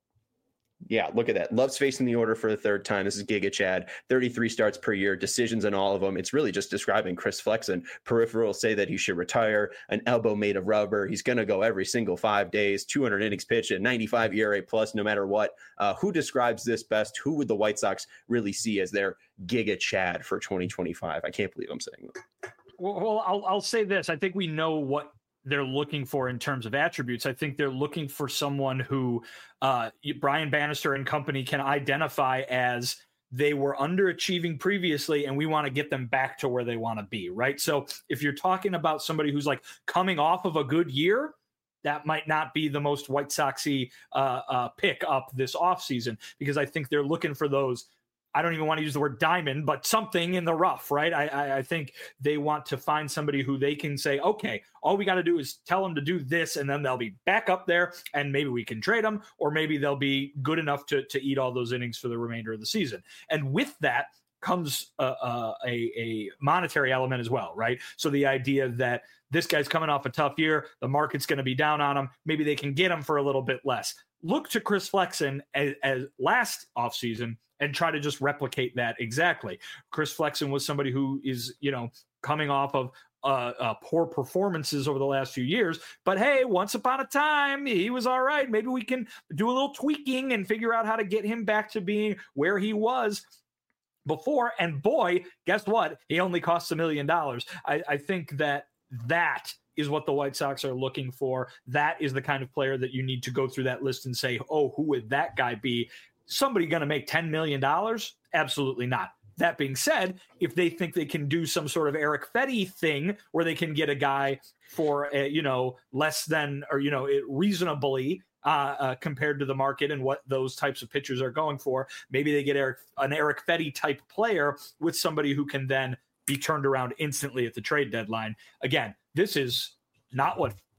Yeah, look at that. Love's facing the order for the third time. This is Giga Chad. thirty-three starts per year, decisions on all of them. It's really just describing Chris Flexen. Peripherals say that he should retire. An elbow made of rubber. He's going to go every single five days. two hundred innings pitched at ninety-five E R A plus, no matter what. Uh, who describes this best? Who would the White Sox really see as their Giga Chad for twenty twenty-five? I can't believe I'm saying that. Well, I'll I'll say this. I think we know what they're looking for in terms of attributes. I think they're looking for someone who uh, Brian Bannister and company can identify as they were underachieving previously, and we want to get them back to where they want to be, right? So if you're talking about somebody who's like coming off of a good year, that might not be the most White Sox-y uh, uh, pick up this offseason, because I think they're looking for those. I don't even want to use the word diamond, but something in the rough, right? I, I, I think they want to find somebody who they can say, okay, all we got to do is tell them to do this, and then they'll be back up there, and maybe we can trade them, or maybe they'll be good enough to, to eat all those innings for the remainder of the season. And with that comes a, a, a monetary element as well, right? So the idea that this guy's coming off a tough year, the market's going to be down on him, maybe they can get him for a little bit less. Look to Chris Flexen as, as last offseason and try to just replicate that exactly. Chris Flexen was somebody who is, you know, coming off of uh, uh, poor performances over the last few years. But hey, once upon a time, he was all right. Maybe we can do a little tweaking and figure out how to get him back to being where he was before. And boy, guess what? He only costs a million dollars. I, I think that that is what the White Sox are looking for. That is the kind of player that you need to go through that list and say, oh, who would that guy be? Somebody going to make ten million dollars? Absolutely not. That being said, if they think they can do some sort of Eric Fetty thing where they can get a guy for, a, you know, less than, or, you know, it reasonably uh, uh, compared to the market and what those types of pitchers are going for, maybe they get Eric, an Eric Fetty type player with somebody who can then be turned around instantly at the trade deadline. Again, this is not what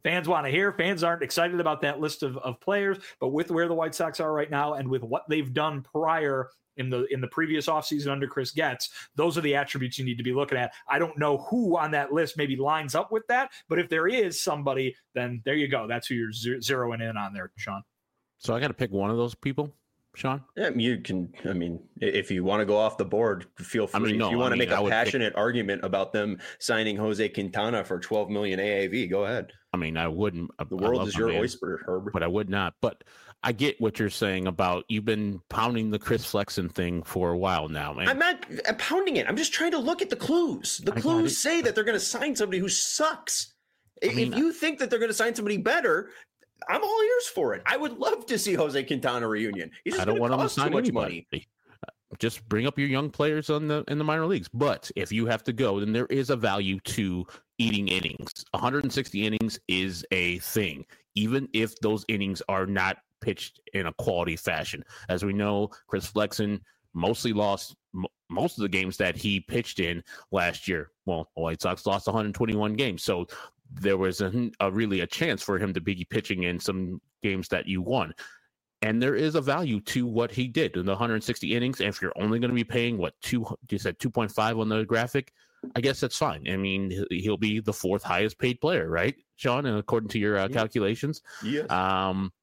fans want to hear. Fans aren't excited about that list of, of players, but with where the White Sox are right now and with what they've done prior in the in the previous offseason under Chris Getz, those are the attributes you need to be looking at. I don't know who on that list maybe lines up with that, but if there is somebody, then there you go. That's who you're zeroing in on there, Sean. So I got to pick one of those people, Sean? Yeah, you can. I mean, if you want to go off the board, feel free. I mean, no, if you want I mean, to make a passionate pick... argument about them signing Jose Quintana for twelve million A A V, go ahead. I mean, I wouldn't. The world is your man, oyster, Herb. But I would not. But I get what you're saying about you've been pounding the Chris Flexen thing for a while now, man. I'm not I'm pounding it. I'm just trying to look at the clues. The I clues say that they're going to sign somebody who sucks. I mean, if you think that they're going to sign somebody better, I'm all ears for it. I would love to see Jose Quintana reunion. He's just I don't want him to sign too much anybody. money. Just bring up your young players on the in the minor leagues. But if you have to go, then there is a value to eating innings. one hundred sixty innings is a thing, even if those innings are not pitched in a quality fashion. As we know, Chris Flexen mostly lost m- most of the games that he pitched in last year. Well, the White Sox lost one hundred twenty-one games, so there was a, a really a chance for him to be pitching in some games that you won. And there is a value to what he did in the one hundred sixty innings. And if you're only going to be paying what two, you said two point five on the graphic, I guess that's fine. I mean, he'll be the fourth highest paid player, right, Sean? And according to your uh, yeah. calculations, yeah. Um,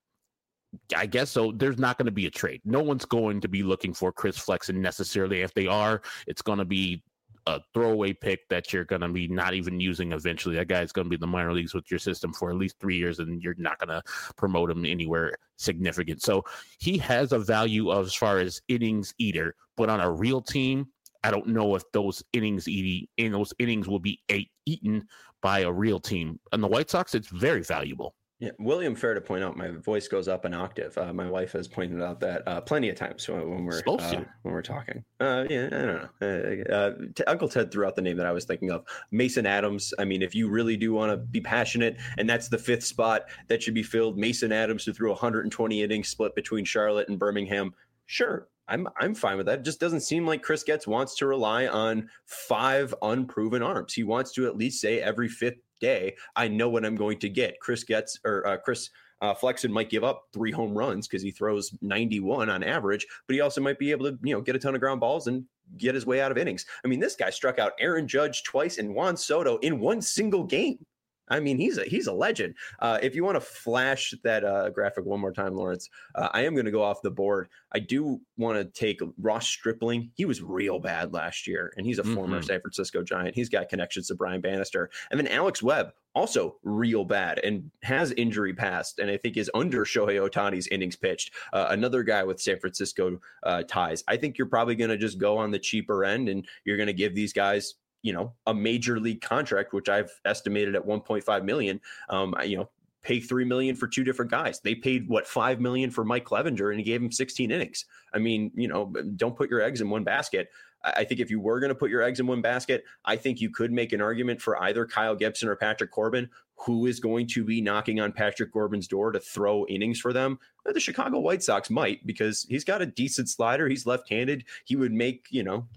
I guess so. There's not going to be a trade. No one's going to be looking for Chris Flexen necessarily. If they are, it's going to be a throwaway pick that you're going to be not even using eventually. That guy's going to be in the minor leagues with your system for at least three years, and you're not going to promote him anywhere significant. So he has a value of, as far as innings eater, but on a real team, I don't know if those innings eating in those innings will be eight, eaten by a real team. And the White Sox, it's very valuable. Yeah, William, fair to point out, my voice goes up an octave. Uh, my wife has pointed out that uh, plenty of times when, when we're uh, when we're talking. Uh, yeah, I don't know. Uh, uh, t- Uncle Ted threw out the name that I was thinking of, Mason Adams. I mean, if you really do want to be passionate, and that's the fifth spot that should be filled, Mason Adams, who threw one hundred twenty innings split between Charlotte and Birmingham. Sure, I'm I'm fine with that. It just doesn't seem like Chris Getz wants to rely on five unproven arms. He wants to at least say every fifth day, I know what I'm going to get. Chris Getz or uh, Chris uh, Flexen might give up three home runs because he throws ninety-one on average, but he also might be able to, you know, get a ton of ground balls and get his way out of innings. I mean, this guy struck out Aaron Judge twice and Juan Soto in one single game. I mean, he's a he's a legend. Uh, if you want to flash that uh, graphic one more time, Lawrence, uh, I am going to go off the board. I do want to take Ross Stripling. He was real bad last year, and he's a mm-hmm. former San Francisco Giant. He's got connections to Brian Bannister. And then Alex Webb, also real bad and has injury past, and I think is under Shohei Ohtani's innings pitched. Uh, another guy with San Francisco uh, ties. I think you're probably going to just go on the cheaper end, and you're going to give these guys, you know, a major league contract, which I've estimated at one point five million. Um, you know, pay three million for two different guys. They paid what five million for Mike Clevenger, and he gave him sixteen innings. I mean, you know, don't put your eggs in one basket. I think if you were going to put your eggs in one basket, I think you could make an argument for either Kyle Gibson or Patrick Corbin. Who is going to be knocking on Patrick Corbin's door to throw innings for them? The Chicago White Sox might, because he's got a decent slider. He's left-handed. He would make, you know,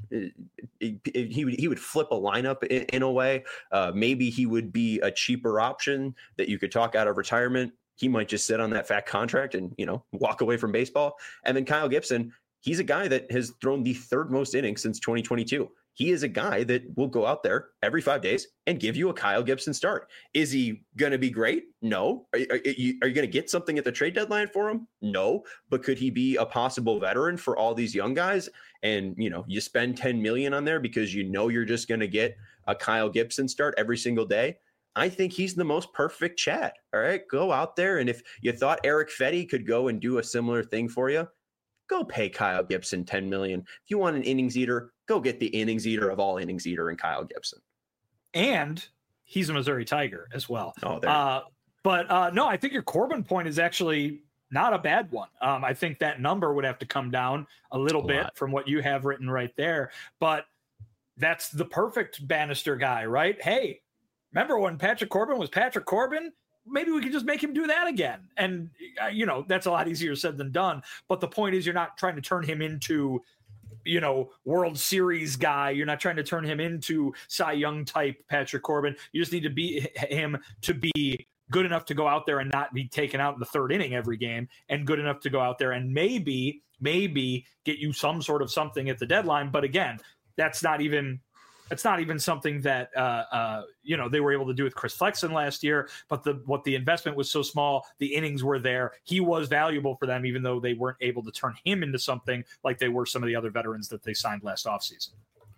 he would he would flip a lineup in, in a way. Uh, maybe he would be a cheaper option that you could talk out of retirement. He might just sit on that fat contract and, you know, walk away from baseball. And then Kyle Gibson, he's a guy that has thrown the third most innings since twenty twenty-two. He is a guy that will go out there every five days and give you a Kyle Gibson start. Is he going to be great? No. Are, are, are you, are you going to get something at the trade deadline for him? No. But could he be a possible veteran for all these young guys? And, you know, you spend ten million on there because you know you're just going to get a Kyle Gibson start every single day. I think he's the most perfect chat. All right, go out there. And if you thought Eric Fetty could go and do a similar thing for you, go pay Kyle Gibson ten million dollars. If you want an innings eater, go get the innings eater of all innings eater in Kyle Gibson. And he's a Missouri Tiger as well. Oh, there. Uh, but uh, no, I think your Corbin point is actually not a bad one. Um, I think that number would have to come down a little a bit lot. from what you have written right there. But that's the perfect Bannister guy, right? Hey, remember when Patrick Corbin was Patrick Corbin? Maybe we could just make him do that again. And, uh, you know, that's a lot easier said than done. But the point is, you're not trying to turn him into, you know, World Series guy. You're not trying to turn him into Cy Young type Patrick Corbin. You just need to be him to be good enough to go out there and not be taken out in the third inning every game, and good enough to go out there and maybe, maybe get you some sort of something at the deadline. But again, that's not even It's not even something that, uh, uh, you know, they were able to do with Chris Flexen last year, but the what the investment was so small, the innings were there. He was valuable for them, even though they weren't able to turn him into something like they were some of the other veterans that they signed last offseason.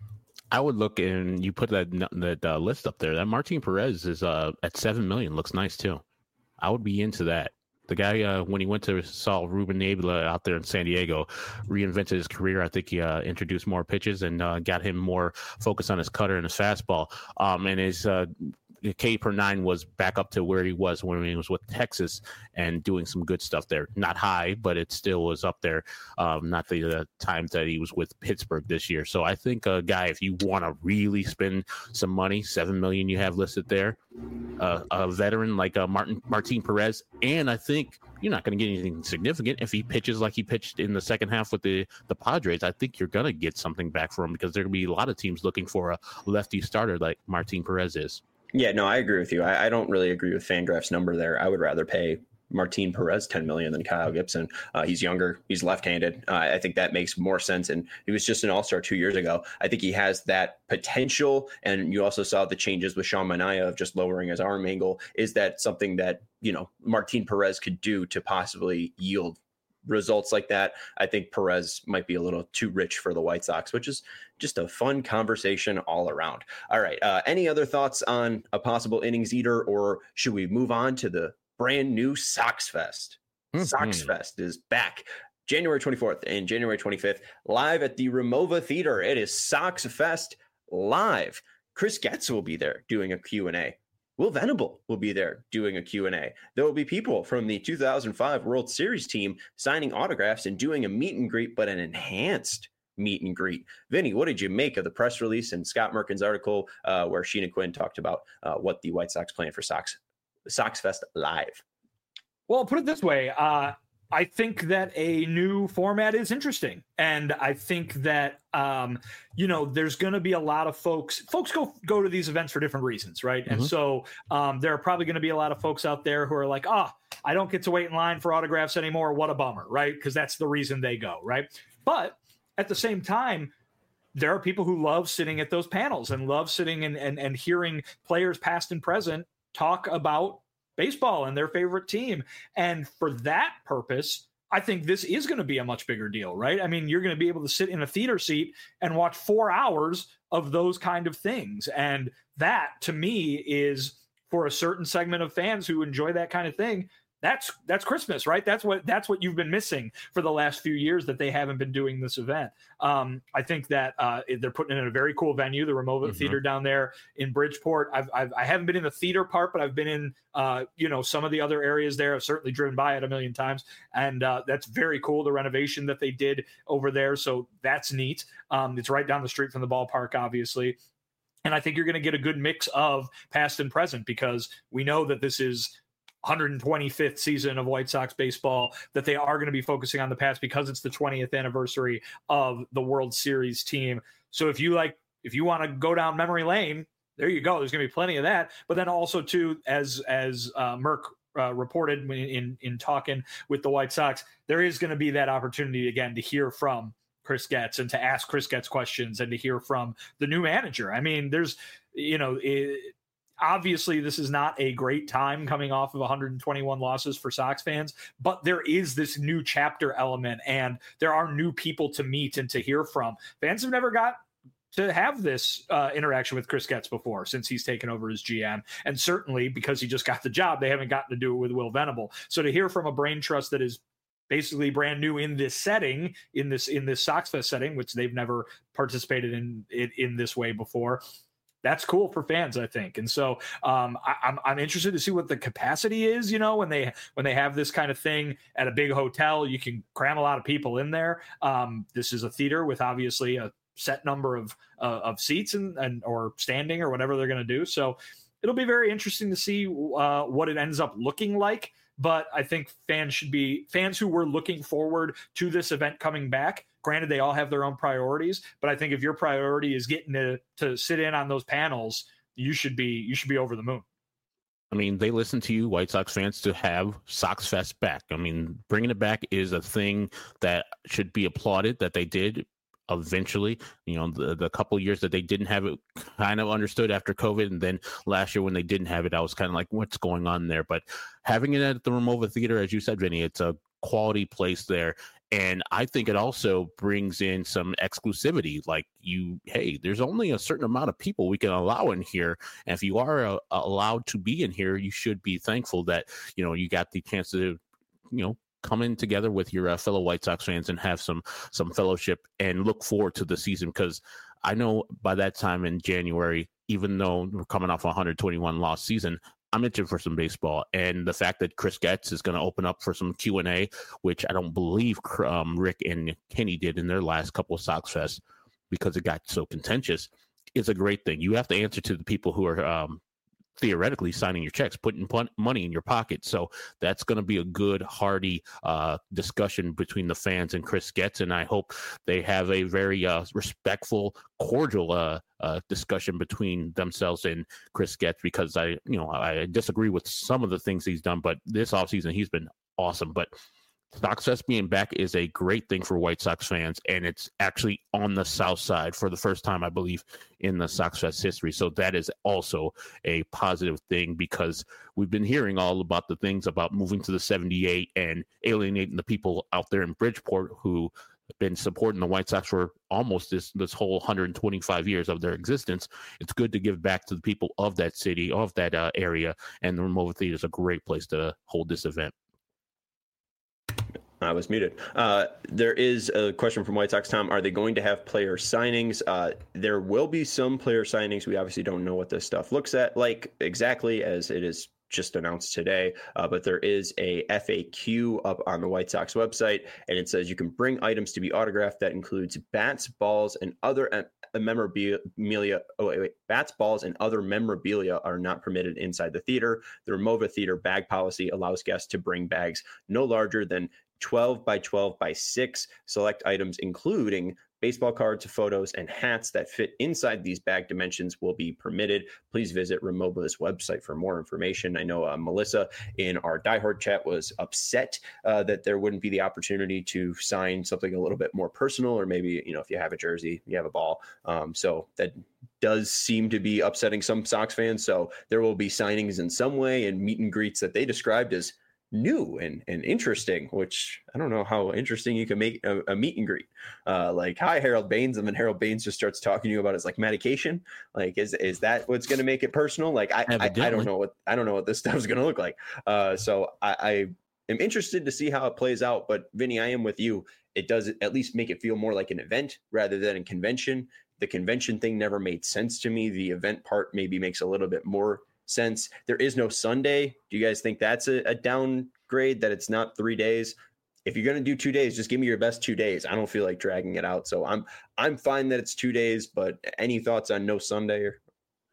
I would look, and you put that that uh, list up there. That Martin Perez is uh, at seven million. Looks nice too. I would be into that. The guy, uh, when he went to saw Ruben Nebula out there in San Diego, reinvented his career. I think he uh, introduced more pitches and uh, got him more focus on his cutter and his fastball. Um, and his uh, K per nine was back up to where he was when he was with Texas and doing some good stuff there. Not high, but it still was up there. Um, not the uh, times that he was with Pittsburgh this year. So I think a guy, if you want to really spend some money, seven million you have listed there, uh, a veteran like uh, Martin Martin Perez, and I think you're not going to get anything significant if he pitches like he pitched in the second half with the the Padres. I think you're going to get something back for him because there are going to be a lot of teams looking for a lefty starter like Martin Perez is. Yeah, no, I agree with you. I, I don't really agree with FanGraphs' number there. I would rather pay Martin Perez ten million dollars than Kyle Gibson. Uh, he's younger. He's left-handed. Uh, I think that makes more sense. And he was just an all-star two years ago. I think he has that potential. And you also saw the changes with Sean Manaea of just lowering his arm angle. Is that something that, you know, Martin Perez could do to possibly yield results like that? I think Perez might be a little too rich for the White Sox, which is just a fun conversation all around. All right. Uh, any other thoughts on a possible innings eater, or should we move on to the brand new Sox Fest? Mm-hmm. Sox Fest is back January twenty-fourth and January twenty-fifth, live at the Ramova Theater. It is Sox Fest live. Chris Getz will be there doing a Q and A. Will Venable will be there doing a Q and A. There will be people from the two thousand five World Series team signing autographs and doing a meet and greet, but an enhanced meet and greet. Vinny, what did you make of the press release and Scott Merkin's article uh, where Sheena Quinn talked about uh, what the White Sox plan for Sox Sox Fest live? Well, put it this way. Uh, I think that a new format is interesting. And I think that, um, you know, there's going to be a lot of folks, folks go, go to these events for different reasons. Right. Mm-hmm. And so um, there are probably going to be a lot of folks out there who are like, ah, oh, I don't get to wait in line for autographs anymore. What a bummer. Right. Because that's the reason they go. Right. But at the same time, there are people who love sitting at those panels and love sitting and, and, and hearing players past and present talk about baseball and their favorite team. And for that purpose, I think this is going to be a much bigger deal, right? I mean, you're going to be able to sit in a theater seat and watch four hours of those kind of things. And that, to me, is for a certain segment of fans who enjoy that kind of thing. That's that's Christmas, right? That's what that's what you've been missing for the last few years that they haven't been doing this event. Um, I think that uh, they're putting it in a very cool venue, the Ramova mm-hmm. Theater down there in Bridgeport. I've, I've I haven't been in the theater part, but I've been in uh, you know some of the other areas there. I've certainly driven by it a million times, and uh, that's very cool. The renovation that they did over there, so that's neat. Um, it's right down the street from the ballpark, obviously. And I think you're going to get a good mix of past and present because we know that this is one hundred twenty-fifth season of White Sox baseball, that they are going to be focusing on the past because it's the twentieth anniversary of the World Series team. So if you like, if you want to go down memory lane, there you go. There's going to be plenty of that. But then also too, as as uh, Merck uh, reported in, in in talking with the White Sox, there is going to be that opportunity again to hear from Chris Getz and to ask Chris Getz questions and to hear from the new manager. I mean, there's, you know, it, obviously, this is not a great time coming off of one hundred twenty-one losses for Sox fans, but there is this new chapter element and there are new people to meet and to hear from. Fans have never got to have this uh, interaction with Chris Getz before since he's taken over as G M. And certainly because he just got the job, they haven't gotten to do it with Will Venable. So to hear from a brain trust that is basically brand new in this setting, in this in this Sox Fest setting, which they've never participated in in, in this way before, that's cool for fans, I think. And so um, I, I'm I'm interested to see what the capacity is. You know, when they when they have this kind of thing at a big hotel, you can cram a lot of people in there. Um, this is a theater with obviously a set number of uh, of seats and, and or standing or whatever they're going to do. So it'll be very interesting to see uh, what it ends up looking like. But I think fans should be fans who were looking forward to this event coming back. Granted, they all have their own priorities, but I think if your priority is getting to, to sit in on those panels, you should be you should be over the moon. I mean, they listen to you, White Sox fans, to have Sox Fest back. I mean, bringing it back is a thing that should be applauded that they did eventually. You know, the, the couple of years that they didn't have it, kind of understood after COVID. And then last year when they didn't have it, I was kind of like, what's going on there? But having it at the Ramova Theater, as you said, Vinny, it's a quality place there. And I think it also brings in some exclusivity. Like you, hey, there's only a certain amount of people we can allow in here. And if you are uh, allowed to be in here, you should be thankful that, you know, you got the chance to, you know, come in together with your uh, fellow White Sox fans and have some some fellowship and look forward to the season. Because I know by that time in January, even though we're coming off a one hundred twenty-one loss season, I'm itching for some baseball. And the fact that Chris Getz is going to open up for some Q and A, which I don't believe um, Rick and Kenny did in their last couple of Sox Fest because it got so contentious, is a great thing. You have to answer to the people who are um, theoretically signing your checks, putting pun- money in your pocket. So that's going to be a good, hearty uh, discussion between the fans and Chris Getz. And I hope they have a very uh, respectful, cordial uh, uh, discussion between themselves and Chris Getz, because I, you know, I disagree with some of the things he's done, but this offseason he's been awesome. But Sox Fest being back is a great thing for White Sox fans, and it's actually on the south side for the first time, I believe, in the Sox Fest history. So that is also a positive thing, because we've been hearing all about the things about moving to the seventy-eight and alienating the people out there in Bridgeport who have been supporting the White Sox for almost this, this whole one hundred twenty-five years of their existence. It's good to give back to the people of that city, of that uh, area, and the Ramova Theater is a great place to hold this event. I was muted. Uh, there is a question from White Sox Tom. Are they going to have player signings? Uh, there will be some player signings. We obviously don't know what this stuff looks at like exactly, as it is just announced today. Uh, but there is a F A Q up on the White Sox website, and it says you can bring items to be autographed. That includes bats, balls, and other em- memorabilia. Oh, wait, wait. Bats, balls, and other memorabilia are not permitted inside the theater. The Ramova Theater bag policy allows guests to bring bags no larger than twelve by twelve by six. Select items, including baseball cards, photos, and hats that fit inside these bag dimensions, will be permitted. Please visit Ramova's website for more information. I know uh, Melissa in our diehard chat was upset uh, that there wouldn't be the opportunity to sign something a little bit more personal, or maybe, you know, if you have a jersey, you have a ball. Um, so that does seem to be upsetting some Sox fans. So there will be signings in some way and meet and greets that they described as new and, and interesting, which I don't know how interesting you can make a, a meet and greet. Uh, like, hi, Harold Baines, and then Harold Baines just starts talking to you about his like medication. Like, is is that what's going to make it personal? Like, I, I I don't know what I don't know what this stuff is going to look like. Uh, so I, I am interested to see how it plays out. But Vinny, I am with you. It does at least make it feel more like an event rather than a convention. The convention thing never made sense to me. The event part maybe makes a little bit more sense. There is no Sunday. Do you guys think that's a, a downgrade, that it's not three days? If you're going to do two days, just give me your best two days. I don't feel like dragging it out. So I'm I'm fine that it's two days, but any thoughts on no Sunday? Or...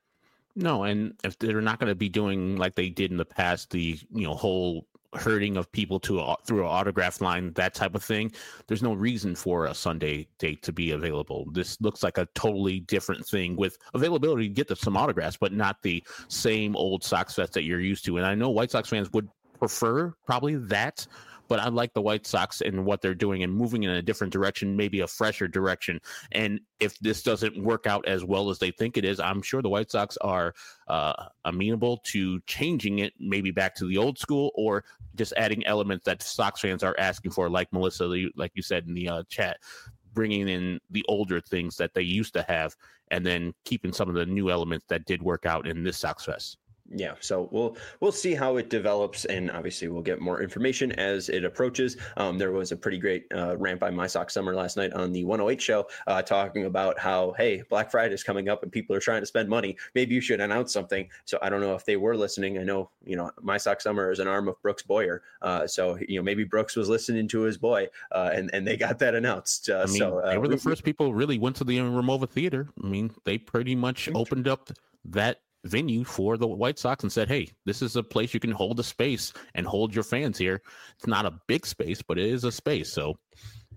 No, and if they're not going to be doing like they did in the past, the, you know, whole herding of people to a, through an autograph line, that type of thing, there's no reason for a Sunday date to be available. This looks like a totally different thing with availability to get the, some autographs, but not the same old Sox Fest that you're used to. And I know White Sox fans would prefer probably that, but I like the White Sox and what they're doing and moving in a different direction, maybe a fresher direction. And if this doesn't work out as well as they think it is, I'm sure the White Sox are uh, amenable to changing it maybe back to the old school, or just adding elements that Sox fans are asking for, like Melissa, like you said in the uh, chat, bringing in the older things that they used to have and then keeping some of the new elements that did work out in this Sox Fest. Yeah, so we'll we'll see how it develops, and obviously we'll get more information as it approaches. Um, there was a pretty great uh, rant by My Sox Summer last night on the one oh eight show, uh, talking about how, hey, Black Friday is coming up and people are trying to spend money. Maybe you should announce something. So I don't know if they were listening. I know, you know, My Sox Summer is an arm of Brooks Boyer, uh, so you know maybe Brooks was listening to his boy, uh, and and they got that announced. Uh, I mean, so uh, they were the first people who really went to the Ramova Theater. I mean, they pretty much opened up that venue for the White Sox and said, hey, this is a place you can hold a space and hold your fans here. It's not a big space, but it is a space. So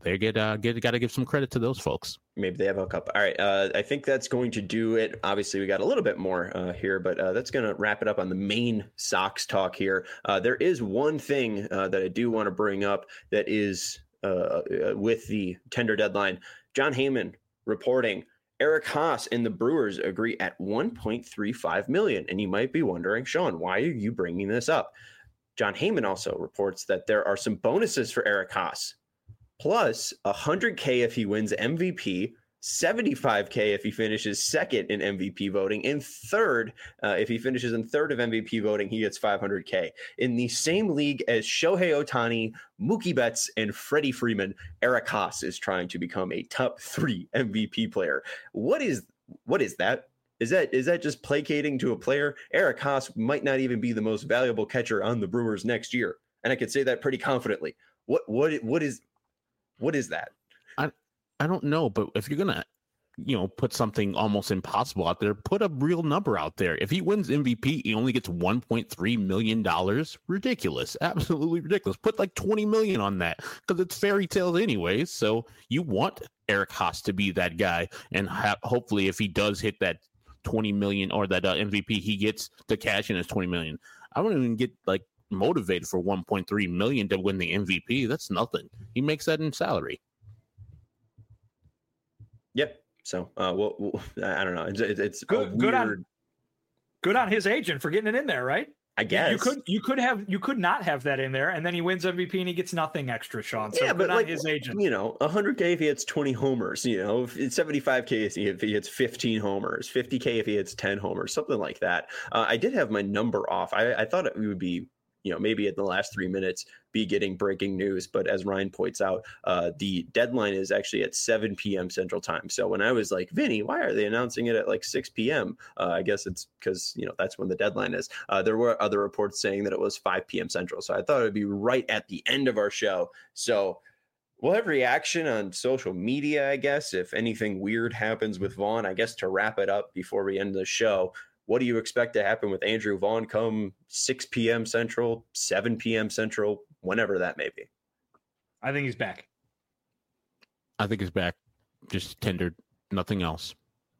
they get uh, get got to give some credit to those folks. Maybe they have a cup. All right. Uh, I think that's going to do it. Obviously, we got a little bit more uh, here, but uh, that's going to wrap it up on the main Sox talk here. Uh, there is one thing uh, that I do want to bring up that is uh, with the tender deadline. Jon Heyman reporting Eric Haas and the Brewers agree at one point three five million dollars. And you might be wondering, Sean, why are you bringing this up? Jon Heyman also reports that there are some bonuses for Eric Haas, plus one hundred K if he wins M V P, seventy-five K if he finishes second in M V P voting, and third, uh, if he finishes in third of M V P voting, he gets five hundred K. In the same league as Shohei Ohtani, Mookie Betts, and Freddie Freeman, Eric Haas is trying to become a top three M V P player. What is what is that? Is that is that just placating to a player? Eric Haas might not even be the most valuable catcher on the Brewers next year, and I could say that pretty confidently. What what what is what is that? I I don't know, but if you're gonna, you know, put something almost impossible out there, put a real number out there. If he wins M V P, he only gets one point three million dollars. Ridiculous, absolutely ridiculous. Put like twenty million on that because it's fairy tales anyways. So you want Eric Haas to be that guy, and ha- hopefully, if he does hit that twenty million or that uh, M V P, he gets to cash in his twenty million. I wouldn't even get like motivated for one point three million to win the M V P. That's nothing. He makes that in salary. Yep. So, uh, well, well I don't know. It's, it's good. Weird... Good on. Good on his agent for getting it in there, right? I guess you could you could have you could not have that in there, and then he wins M V P and he gets nothing extra, Sean. So yeah, good but on like his agent. You know, one hundred K if he hits twenty homers. You know, if it's seventy-five K if he hits fifteen homers, fifty K if he hits ten homers, something like that. Uh, I did have my number off. I, I thought it would be, you know, maybe in the last three minutes be getting breaking news. But as Ryan points out, uh, the deadline is actually at seven p.m. Central Time. So when I was like, Vinny, why are they announcing it at like six p.m.? Uh, I guess it's because, you know, that's when the deadline is. Uh, there were other reports saying that it was five p.m. Central. So I thought it would be right at the end of our show. So we'll have reaction on social media, I guess, if anything weird happens with Vaughn. I guess to wrap it up before we end the show, what do you expect to happen with Andrew Vaughn come six p.m. Central, seven p.m. Central, whenever that may be? I think he's back. I think he's back. Just tendered, nothing else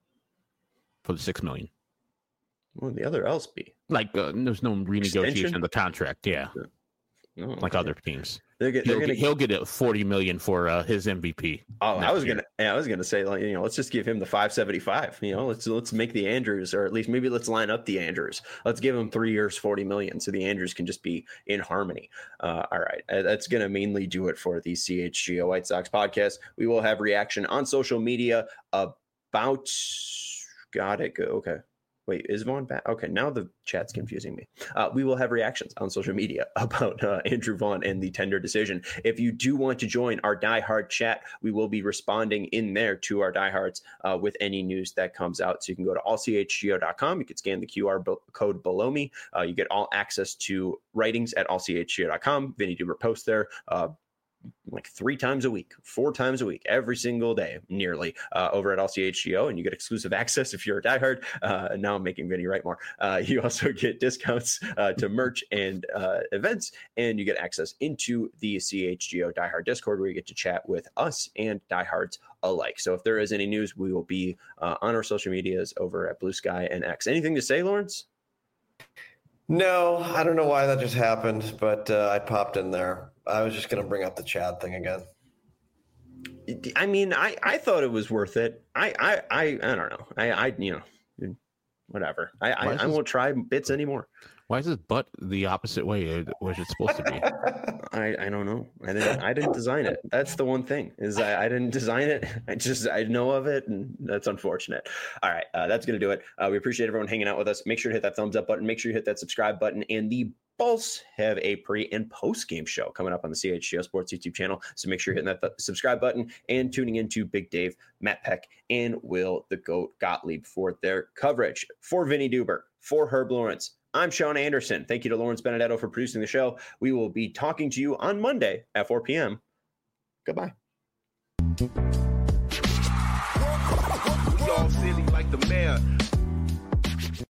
for the six million. Well, the other else be like uh, there's no renegotiation Extension? of the contract. Yeah, no, like okay. other teams. They're, they're he'll, gonna get, he'll get a forty million for uh, his M V P. Oh, I was year. gonna, yeah, I was gonna say, like, you know, let's just give him the five seventy-five. You know, let's let's make the Andrews, or at least maybe let's line up the Andrews. Let's give him three years, forty million, so the Andrews can just be in harmony. Uh, all right, uh, that's gonna mainly do it for the C H G O White Sox podcast. We will have reaction on social media about. Got it. Go. Okay. Wait, is Vaughn back? Okay, now the chat's confusing me. Uh, we will have reactions on social media about uh, Andrew Vaughn and the tender decision. If you do want to join our diehard chat, we will be responding in there to our diehards uh, with any news that comes out. So you can go to all c h g o dot com. You can scan the Q R b- code below me. Uh, you get all access to writings at all c h g o dot com. Vinny Duber posts there. Uh, like three times a week, four times a week, every single day, nearly uh, over at L C H G O, and you get exclusive access if you're a diehard. Uh, now I'm making Vinny write more. Uh, you also get discounts uh, to merch and uh, events, and you get access into the C H G O diehard Discord where you get to chat with us and diehards alike. So if there is any news, we will be uh, on our social medias over at Blue Sky and X. Anything to say, Lawrence? No, I don't know why that just happened, but uh, I popped in there. I was just going to bring up the Chad thing again. I mean, I, I thought it was worth it. I I I, I don't know. I, I you know, whatever. I I, I won't try bits anymore. Why is his butt the opposite way was it supposed to be? I, I don't know. I didn't I didn't design it. That's the one thing is I, I didn't design it. I just I know of it, and that's unfortunate. All right, uh, that's gonna do it. Uh, we appreciate everyone hanging out with us. Make sure to hit that thumbs up button. Make sure you hit that subscribe button, and the Bulls have a pre and post game show coming up on the C H G O Sports YouTube channel. So make sure you're hitting that th- subscribe button and tuning into Big Dave, Matt Peck, and Will the Goat Gottlieb for their coverage. For Vinny Duber, for Herb Lawrence, I'm Sean Anderson. Thank you to Lawrence Benedetto for producing the show. We will be talking to you on Monday at four p.m. Goodbye. We all silly like the mayor.